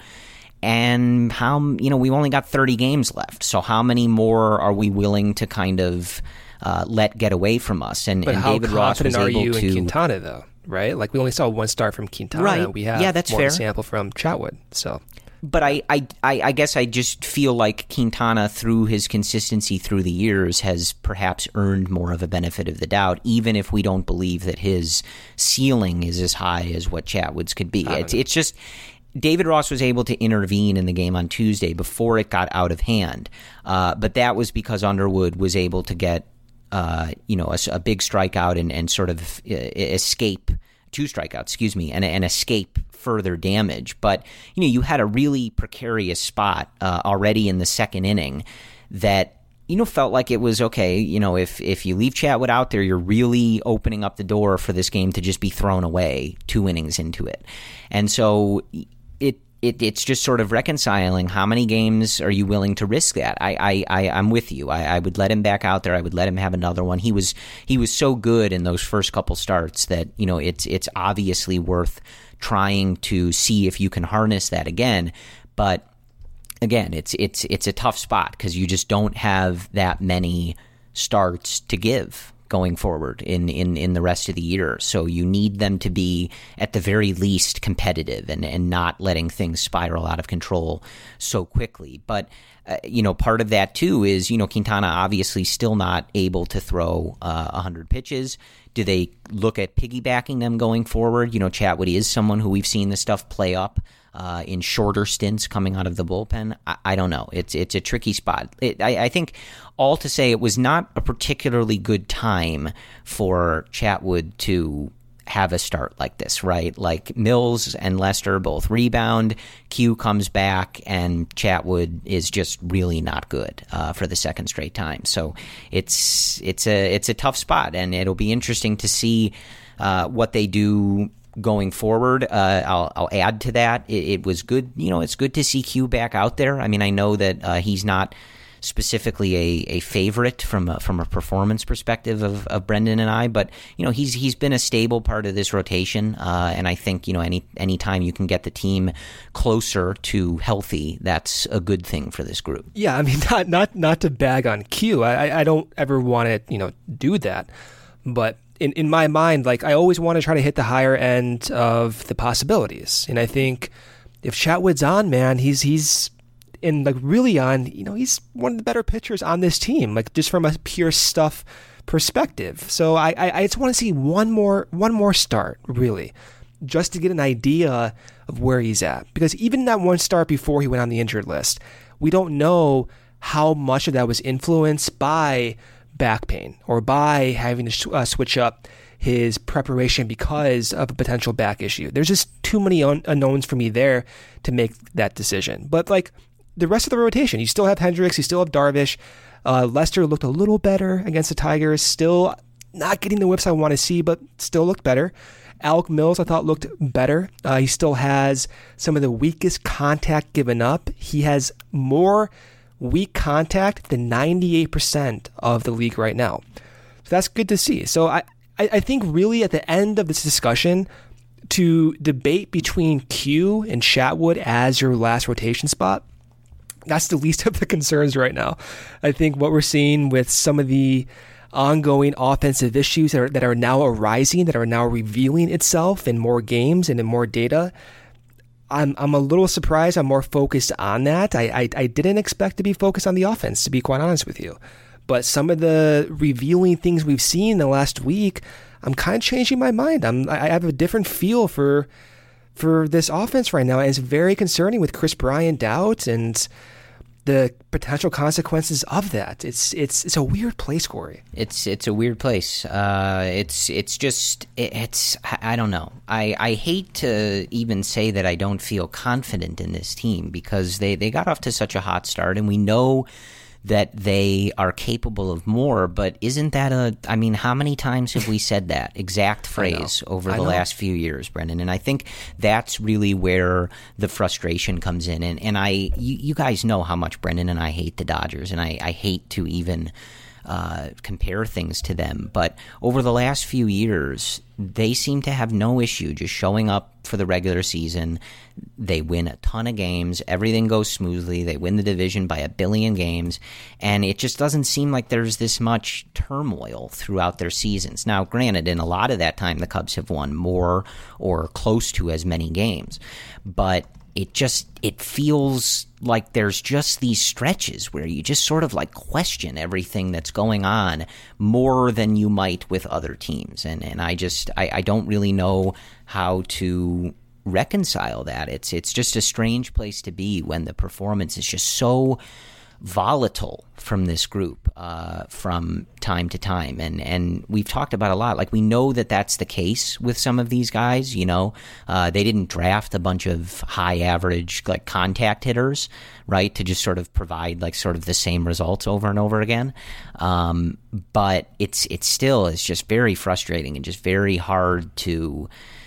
And how, you know, we've only got thirty games left. So how many more are we willing to kind of uh, let get away from us? And, but and how David Ross was confident are able you to, in Quintana, though, right? Like, we only saw one start from Quintana. Right. We have yeah, that's more fair. of a sample from Chatwood, so... But I, I, I guess I just feel like Quintana, through his consistency through the years, has perhaps earned more of a benefit of the doubt, even if we don't believe that his ceiling is as high as what Chatwood's could be. It's, it's just David Ross was able to intervene in the game on Tuesday before it got out of hand, uh, but that was because Underwood was able to get uh, you know a, a big strikeout and, and sort of uh, escape. Two strikeouts, excuse me, and, and escape further damage. But, you know, you had a really precarious spot uh, already in the second inning that, you know, felt like it was, okay, you know, if, if you leave Chatwood out there, you're really opening up the door for this game to just be thrown away two innings into it. And so it, it it's just sort of reconciling how many games are you willing to risk that. I, I, I, I'm with you. I, I would let him back out there. I would let him have another one. He was he was so good in those first couple starts that, you know, it's it's obviously worth trying to see if you can harness that again. But again, it's it's it's a tough spot because you just don't have that many starts to give going forward in, in, in the rest of the year. So you need them to be at the very least competitive and, and not letting things spiral out of control so quickly. But, uh, you know, part of that too is, you know, Quintana obviously still not able to throw uh, one hundred pitches. Do they look at piggybacking them going forward? You know, Chatwood is someone who we've seen this stuff play up uh, in shorter stints coming out of the bullpen. I, I don't know. It's it's a tricky spot. It, I, I think all to say it was not a particularly good time for Chatwood to have a start like this, right? Like Mills and Lester both rebound, Q comes back, and Chatwood is just really not good uh, for the second straight time. So it's it's a it's a tough spot, and it'll be interesting to see uh, what they do going forward. Uh, I'll, I'll add to that. It, it was good, you know, it's good to see Q back out there. I mean, I know that uh, he's not specifically a, a favorite from a, from a performance perspective of, of Brendan and I, but you know he's he's been a stable part of this rotation, uh, and I think you know any any time you can get the team closer to healthy, that's a good thing for this group. Yeah, I mean not not not to bag on Q. I I don't ever want to you know do that, but in in my mind, like I always want to try to hit the higher end of the possibilities, and I think if Chatwood's on, man, he's he's. And like really on, you know, he's one of the better pitchers on this team, like just from a pure stuff perspective. So I, I, I just want to see one more, one more start, really, just to get an idea of where he's at. Because even that one start before he went on the injured list, we don't know how much of that was influenced by back pain or by having to uh, switch up his preparation because of a potential back issue. There's just too many un- unknowns for me there to make that decision. But like, the rest of the rotation, you still have Hendricks, you still have Darvish. Uh, Lester looked a little better against the Tigers. Still not getting the whips I want to see, but still looked better. Alec Mills, I thought, looked better. Uh, he still has some of the weakest contact given up. He has more weak contact than ninety-eight percent of the league right now. So that's good to see. So I, I think really at the end of this discussion, to debate between Q and Chatwood as your last rotation spot, that's the least of the concerns right now. I think what we're seeing with some of the ongoing offensive issues that are, that are now arising, that are now revealing itself in more games and in more data, I'm I'm a little surprised. I'm more focused on that. I, I, I didn't expect to be focused on the offense, to be quite honest with you. But some of the revealing things we've seen in the last week, I'm kind of changing my mind. I'm I have a different feel for for this offense right now, and it's very concerning with Chris Bryant out, and the potential consequences of that. It's it's it's a weird place, Corey. It's it's a weird place. Uh, it's it's just it, it's I don't know. I, I hate to even say that I don't feel confident in this team because they, they got off to such a hot start, and we know that they are capable of more, but isn't that a, I mean, how many times have we said that exact phrase over the last few years, Brendan? And I think that's really where the frustration comes in. And, and I, you, you guys know how much Brendan and I hate the Dodgers, and I, I hate to even uh, compare things to them. But over the last few years, they seem to have no issue just showing up for the regular season. They win a ton of games. Everything goes smoothly. They win the division by a billion games. And it just doesn't seem like there's this much turmoil throughout their seasons. Now, granted, in a lot of that time, the Cubs have won more or close to as many games. But it just, it feels like there's just these stretches where you just sort of like question everything that's going on more than you might with other teams. And and I just, I, I don't really know how to reconcile that. It's it's just a strange place to be when the performance is just so volatile from this group uh, from time to time. And, and we've talked about a lot. Like, we know that that's the case with some of these guys, you know. Uh, they didn't draft a bunch of high average, like, contact hitters, right, to just sort of provide, like, sort of the same results over and over again. Um, but it's, it's still is just very frustrating and just very hard to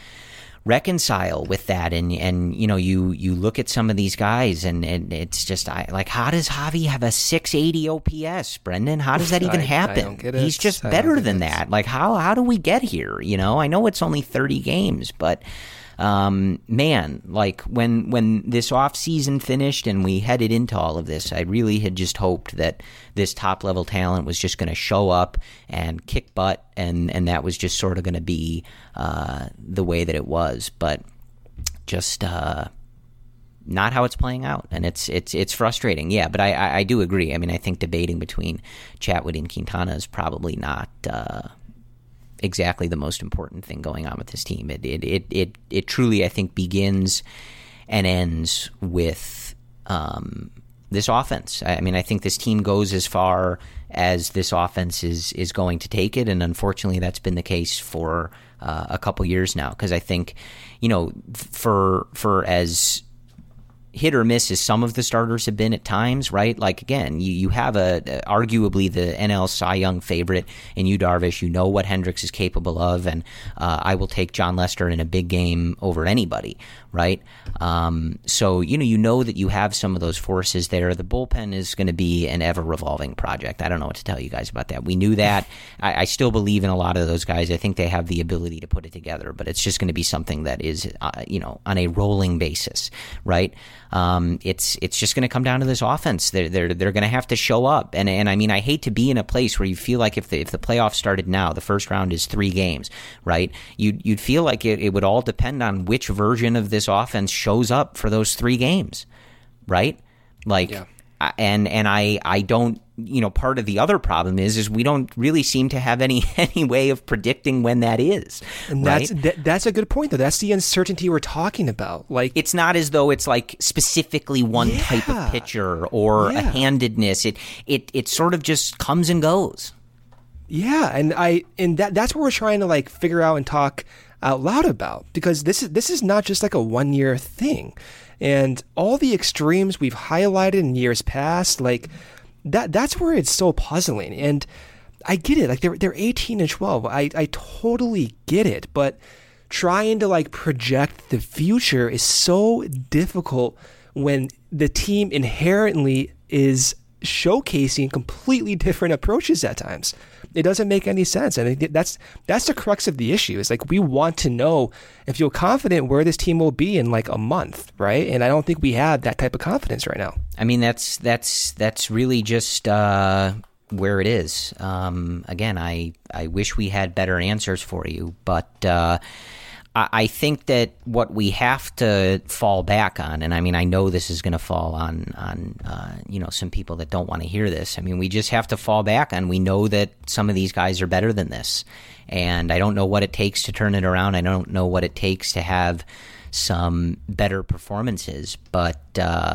reconcile with that. And and you know, you you look at some of these guys, and, and it's just I like, how does Javi have a six eighty O P S, Brendan? How does that even I, happen? I don't get it. He's just I better than it. that. Like, how how do we get here? You know, I know it's only thirty games, but um, man, like when when this off season finished and we headed into all of this, I really had just hoped that this top level talent was just going to show up and kick butt, and and that was just sort of going to be uh, the way that it was. But just uh, not how it's playing out, and it's it's it's frustrating. Yeah, but I, I, I do agree. I mean, I think debating between Chatwood and Quintana is probably not Uh, exactly the most important thing going on with this team. It it it it, it truly, I think, begins and ends with um, this offense. I mean, I think this team goes as far as this offense is is going to take it, and unfortunately, that's been the case for uh, a couple years now. Because I think, you know, for for as hit or miss as some of the starters have been at times, right? Like, again, you, you have a, a arguably the N L Cy Young favorite in Yu Darvish. You know what Hendricks is capable of, and uh, I will take John Lester in a big game over anybody, right? Um, so, you know, you know that you have some of those forces there. The bullpen is going to be an ever-revolving project. I don't know what to tell you guys about that. We knew that. I, I still believe in a lot of those guys. I think they have the ability to put it together, but it's just going to be something that is, uh, you know, on a rolling basis, right? Um, it's it's just going to come down to this offense. They're they're they're going to have to show up, and and I mean, I hate to be in a place where you feel like if the if the playoffs started now, the first round is three games, right? You'd you'd feel like it, it would all depend on which version of this offense shows up for those three games, right? Like, yeah. and and I I don't. You know, part of the other problem is is we don't really seem to have any any way of predicting when that is. And right? that's that, that's a good point, though. That's the uncertainty we're talking about. Like, it's not as though it's like specifically one yeah. type of pitcher or yeah. a handedness. It it it sort of just comes and goes. Yeah, and I and that that's what we're trying to like figure out and talk out loud about, because this is this is not just like a one year thing, and all the extremes we've highlighted in years past, like. That that's where it's so puzzling, and I get it. Like they're they're eighteen and twelve. I I totally get it, but trying to like project the future is so difficult when the team inherently is showcasing completely different approaches at times. It doesn't make any sense, and that's that's the crux of the issue. Is like we want to know and feel confident where this team will be in like a month, right? And I don't think we have that type of confidence right now. I mean, that's that's that's really just uh, where it is. Um, again, I I wish we had better answers for you, but uh, I, I think that what we have to fall back on, and I mean, I know this is going to fall on on uh, you know, some people that don't want to hear this. I mean, we just have to fall back on. We know that some of these guys are better than this, and I don't know what it takes to turn it around. I don't know what it takes to have some better performances, but. Uh,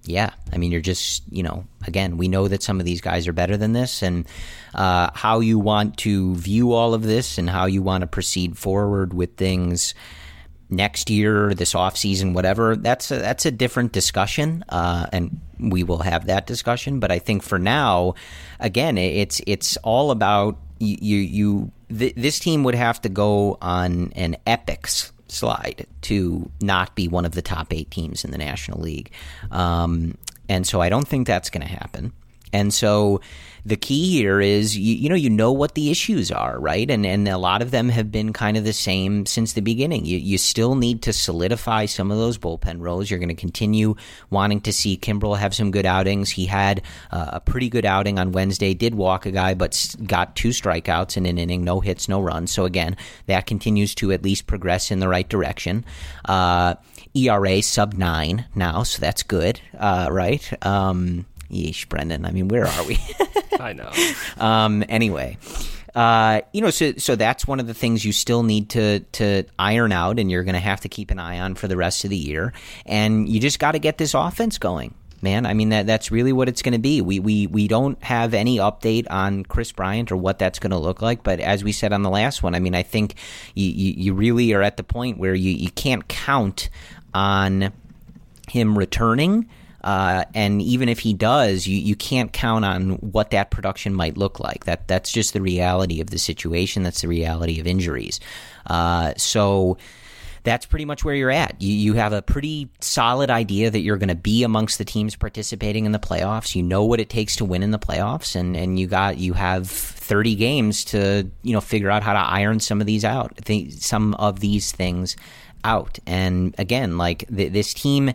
yeah, I mean, you're just, you know, again, we know that some of these guys are better than this, and uh, how you want to view all of this and how you want to proceed forward with things next year, this offseason, whatever, that's a, that's a different discussion, uh, and we will have that discussion. But I think for now, again, it's it's all about you. you, you th- this team would have to go on an epic slide to not be one of the top eight teams in the National League. Um, and so I don't think that's going to happen. And so the key here is, you, you know, you know what the issues are, right? And and a lot of them have been kind of the same since the beginning. You you still need to solidify some of those bullpen roles. You're going to continue wanting to see Kimbrel have some good outings. He had uh, a pretty good outing on Wednesday, did walk a guy, but got two strikeouts in an inning, no hits, no runs. So again, that continues to at least progress in the right direction. Uh, E R A sub nine now, so that's good, uh, right? Um Yeesh, Brendan. I mean, where are we? I know. Um, anyway, uh, you know, so so that's one of the things you still need to to iron out, and you're going to have to keep an eye on for the rest of the year. And you just got to get this offense going, man. I mean, that that's really what it's going to be. We we we don't have any update on Kris Bryant or what that's going to look like. But as we said on the last one, I mean, I think you you, you really are at the point where you, you can't count on him returning. Uh, and even if he does, you, you can't count on what that production might look like. That that's just the reality of the situation. That's the reality of injuries. Uh, so that's pretty much where you're at. You you have a pretty solid idea that you're going to be amongst the teams participating in the playoffs. You know what it takes to win in the playoffs, and, and you got you have thirty games to you know figure out how to iron some of these out, th- some of these things out. And again, like th- this team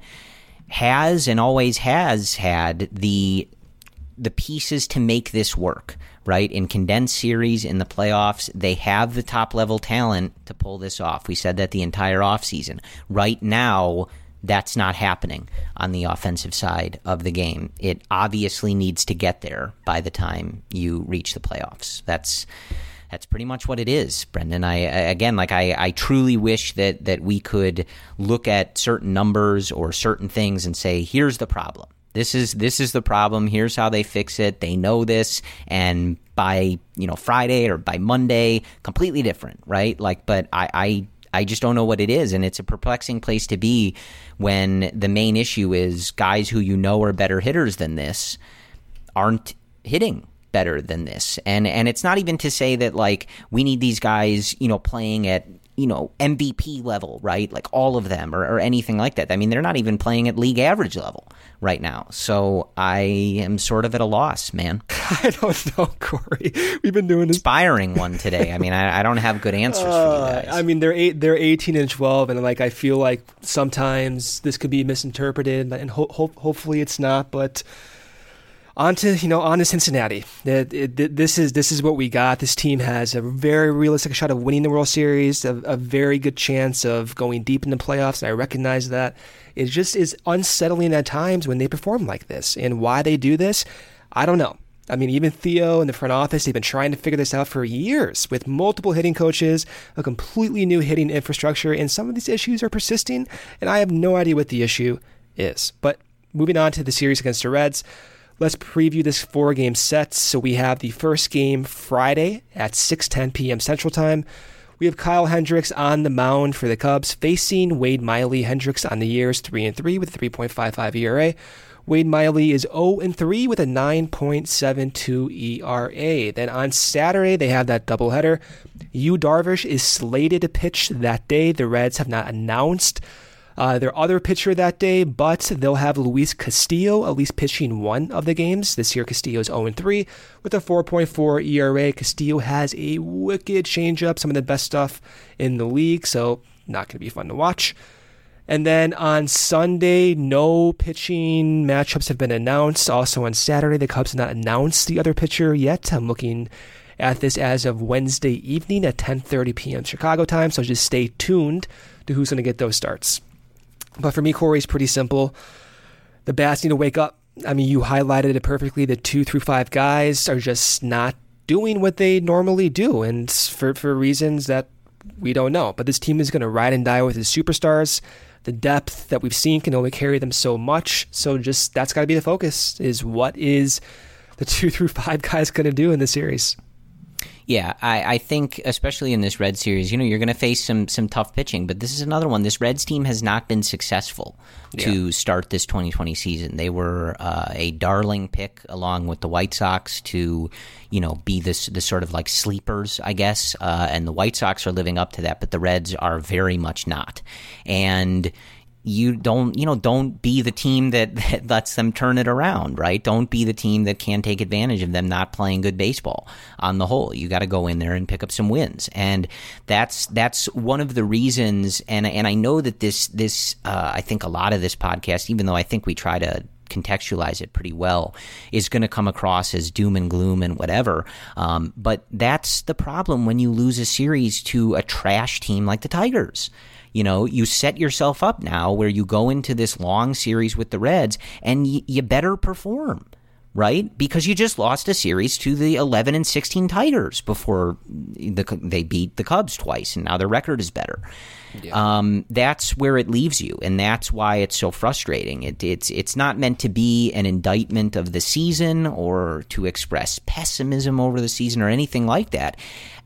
has and always has had the the pieces to make this work, right? In condensed series, in the playoffs, they have the top-level talent to pull this off. We said that the entire offseason. Right now, that's not happening on the offensive side of the game. It obviously needs to get there by the time you reach the playoffs. That's That's pretty much what it is, Brendan. I again, like I, I truly wish that that we could look at certain numbers or certain things and say, here's the problem. This is this is the problem. Here's how they fix it. They know this, and by you know Friday or by Monday, completely different, right? Like, but I, I I just don't know what it is, and it's a perplexing place to be when the main issue is guys who you know are better hitters than this aren't hitting better than this. And and it's not even to say that like we need these guys, you know, playing at, you know, M V P level, right? Like all of them or, or anything like that. I mean, they're not even playing at league average level right now. So I am sort of at a loss, man. I don't know, Corey. We've been doing this. Inspiring one today. I mean, I, I don't have good answers uh, for you guys. I mean, they're eight, they're eighteen and twelve, and like I feel like sometimes this could be misinterpreted, and ho- ho- hopefully it's not, but On to, you know, on to Cincinnati. It, it, this is this is what we got. This team has a very realistic shot of winning the World Series, a, a very good chance of going deep in the playoffs, and I recognize that. It just is unsettling at times when they perform like this. And why they do this, I don't know. I mean, even Theo in the front office, they've been trying to figure this out for years with multiple hitting coaches, a completely new hitting infrastructure, and some of these issues are persisting, and I have no idea what the issue is. But moving on to the series against the Reds, let's preview this four-game set. So we have the first game Friday at six ten p.m. Central Time. We have Kyle Hendricks on the mound for the Cubs, facing Wade Miley. Hendricks on the year is three and three with a three point five five E R A. Wade Miley is oh and three with a nine point seven two E R A. Then on Saturday, they have that doubleheader. Yu Darvish is slated to pitch that day. The Reds have not announced Uh, their other pitcher that day, but they'll have Luis Castillo at least pitching one of the games. This year, Castillo is oh and three with a four point four E R A. Castillo has a wicked changeup, some of the best stuff in the league, so not going to be fun to watch. And then on Sunday, no pitching matchups have been announced. Also on Saturday, the Cubs have not announced the other pitcher yet. I'm looking at this as of Wednesday evening at ten thirty p.m. Chicago time, so just stay tuned to who's going to get those starts. But for me, Corey, it's pretty simple. The bats need to wake up. I mean, you highlighted it perfectly. The two through five guys are just not doing what they normally do, and for, for reasons that we don't know. But this team is going to ride and die with its superstars. the depth that we've seen can only carry them so much. So just that's got to be the focus, is what is the two through five guys going to do in the series? Yeah, I, I think especially in this Reds series, you know, you're going to face some some tough pitching, but this is another one. This Reds team has not been successful to yeah. start this twenty twenty season. They were uh, a darling pick along with the White Sox to, you know, be this, this sort of like sleepers, I guess, uh, and the White Sox are living up to that, but the Reds are very much not. And you don't, you know, don't be the team that, that lets them turn it around, right? Don't be the team that can take advantage of them not playing good baseball on the whole. You got to go in there and pick up some wins. And that's, that's one of the reasons. And, and I know that this, this, uh, I think a lot of this podcast, even though I think we try to contextualize it pretty well, is going to come across as doom and gloom and whatever. Um, but that's the problem when you lose a series to a trash team like the Tigers. You know, you set yourself up now where you go into this long series with the Reds and y- you better perform, right? Because you just lost a series to the eleven and sixteen Tigers before the, they beat the Cubs twice, and now their record is better. Yeah. Um, that's where it leaves you, and that's why it's so frustrating. It, it's it's not meant to be an indictment of the season or to express pessimism over the season or anything like that.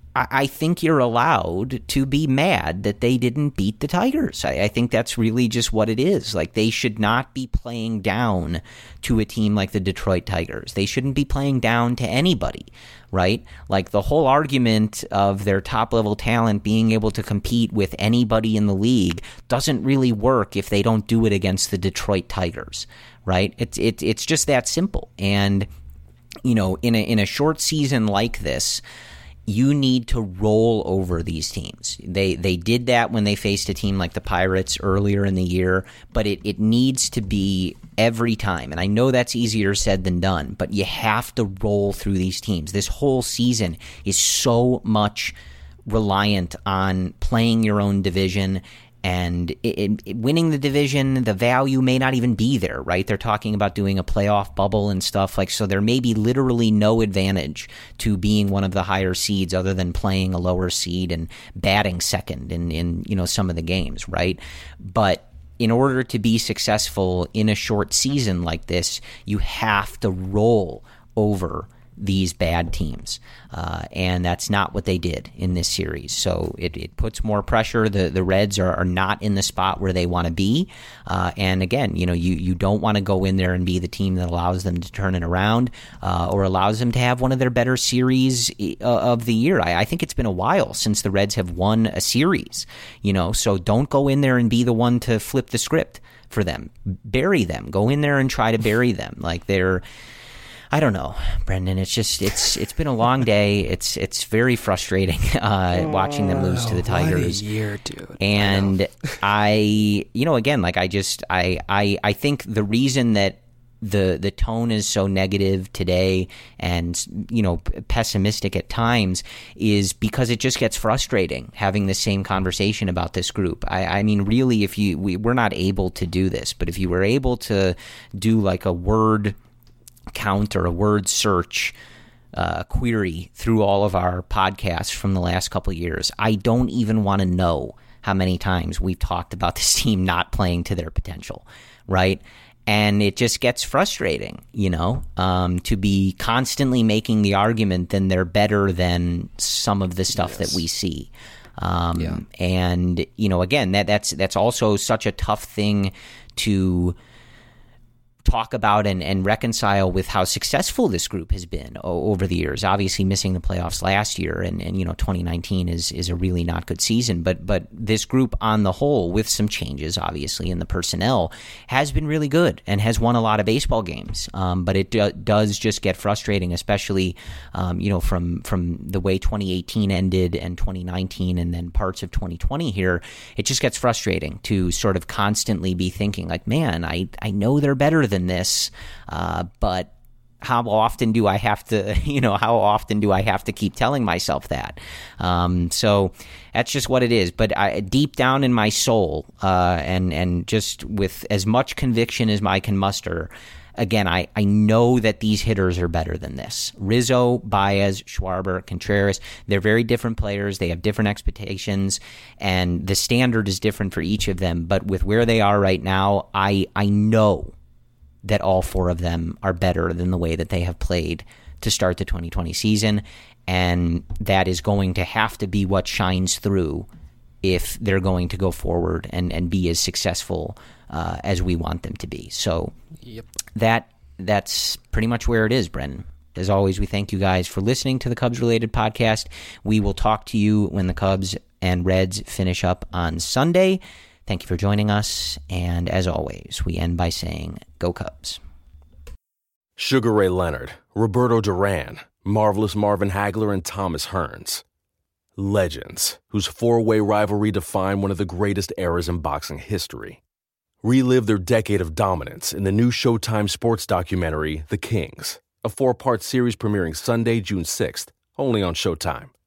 I think you're allowed to be mad that they didn't beat the Tigers. I, I think that's really just what it is. Like, they should not be playing down to a team like the Detroit Tigers. They shouldn't be playing down to anybody, right? Like, the whole argument of their top-level talent being able to compete with anybody in the league doesn't really work if they don't do it against the Detroit Tigers, right? It's it, it's just that simple. And, you know, in a in a short season like this, you need to roll over these teams. They they did that when they faced a team like the Pirates earlier in the year, but it, it needs to be every time. And I know that's easier said than done, but you have to roll through these teams. This whole season is so much reliant on playing your own division. And it, it, winning the division, the value may not even be there, right? They're talking about doing a playoff bubble and stuff like, so there may be literally no advantage to being one of the higher seeds other than playing a lower seed and batting second in, in you know, some of the games, right? But in order to be successful in a short season like this, you have to roll over these bad teams. Uh, and that's not what they did in this series. So it, it puts more pressure. The the Reds are, are not in the spot where they want to be. Uh, and again, you know, you, you don't want to go in there and be the team that allows them to turn it around uh, or allows them to have one of their better series of the year. I, I think it's been a while since the Reds have won a series, you know, so don't go in there and be the one to flip the script for them. Bury them. Go in there and try to bury them. Like they're I don't know, Brendan. It's just it's it's been a long day. It's it's very frustrating uh, watching them lose to the Tigers. What a year, dude. And I, I, you know, again, like I just I, I I think the reason that the the tone is so negative today and, you know, pessimistic at times is because it just gets frustrating having the same conversation about this group. I, I mean, really, if you we, we're not able to do this, but if you were able to do like a word count or a word search uh, query through all of our podcasts from the last couple of years, I don't even want to know how many times we've talked about this team not playing to their potential, right? And it just gets frustrating, you know, um, to be constantly making the argument that they're better than some of the stuff yes. that we see. Um, yeah. And, you know, again, that that's that's also such a tough thing to talk about and, and reconcile with how successful this group has been o- over the years. Obviously missing the playoffs last year, and, and you know, twenty nineteen is is a really not good season. But but this group on the whole, with some changes obviously in the personnel, has been really good and has won a lot of baseball games. Um, but it do, does just get frustrating, especially um, you know from from the way twenty eighteen ended and twenty nineteen and then parts of twenty twenty here. It just gets frustrating to sort of constantly be thinking like, man, I I know they're better than this, uh, but how often do I have to, you know, how often do I have to keep telling myself that? Um, so that's just what it is. But I, deep down in my soul, uh, and and just with as much conviction as I can muster, again, I, I know that these hitters are better than this. Rizzo, Baez, Schwarber, Contreras, they're very different players. They have different expectations, and the standard is different for each of them. But with where they are right now, I I know that all four of them are better than the way that they have played to start the twenty twenty season, and that is going to have to be what shines through if they're going to go forward and, and be as successful uh, as we want them to be. So yep. that that's pretty much where it is, Brendan. As always, we thank you guys for listening to the Cubs-related podcast. We will talk to you when the Cubs and Reds finish up on Sunday. Thank you for joining us, and as always, we end by saying, go Cubs. Sugar Ray Leonard, Roberto Duran, Marvelous Marvin Hagler, and Thomas Hearns. Legends, whose four-way rivalry defined one of the greatest eras in boxing history. Relive their decade of dominance in the new Showtime sports documentary, The Kings, a four-part series premiering Sunday, June sixth, only on Showtime.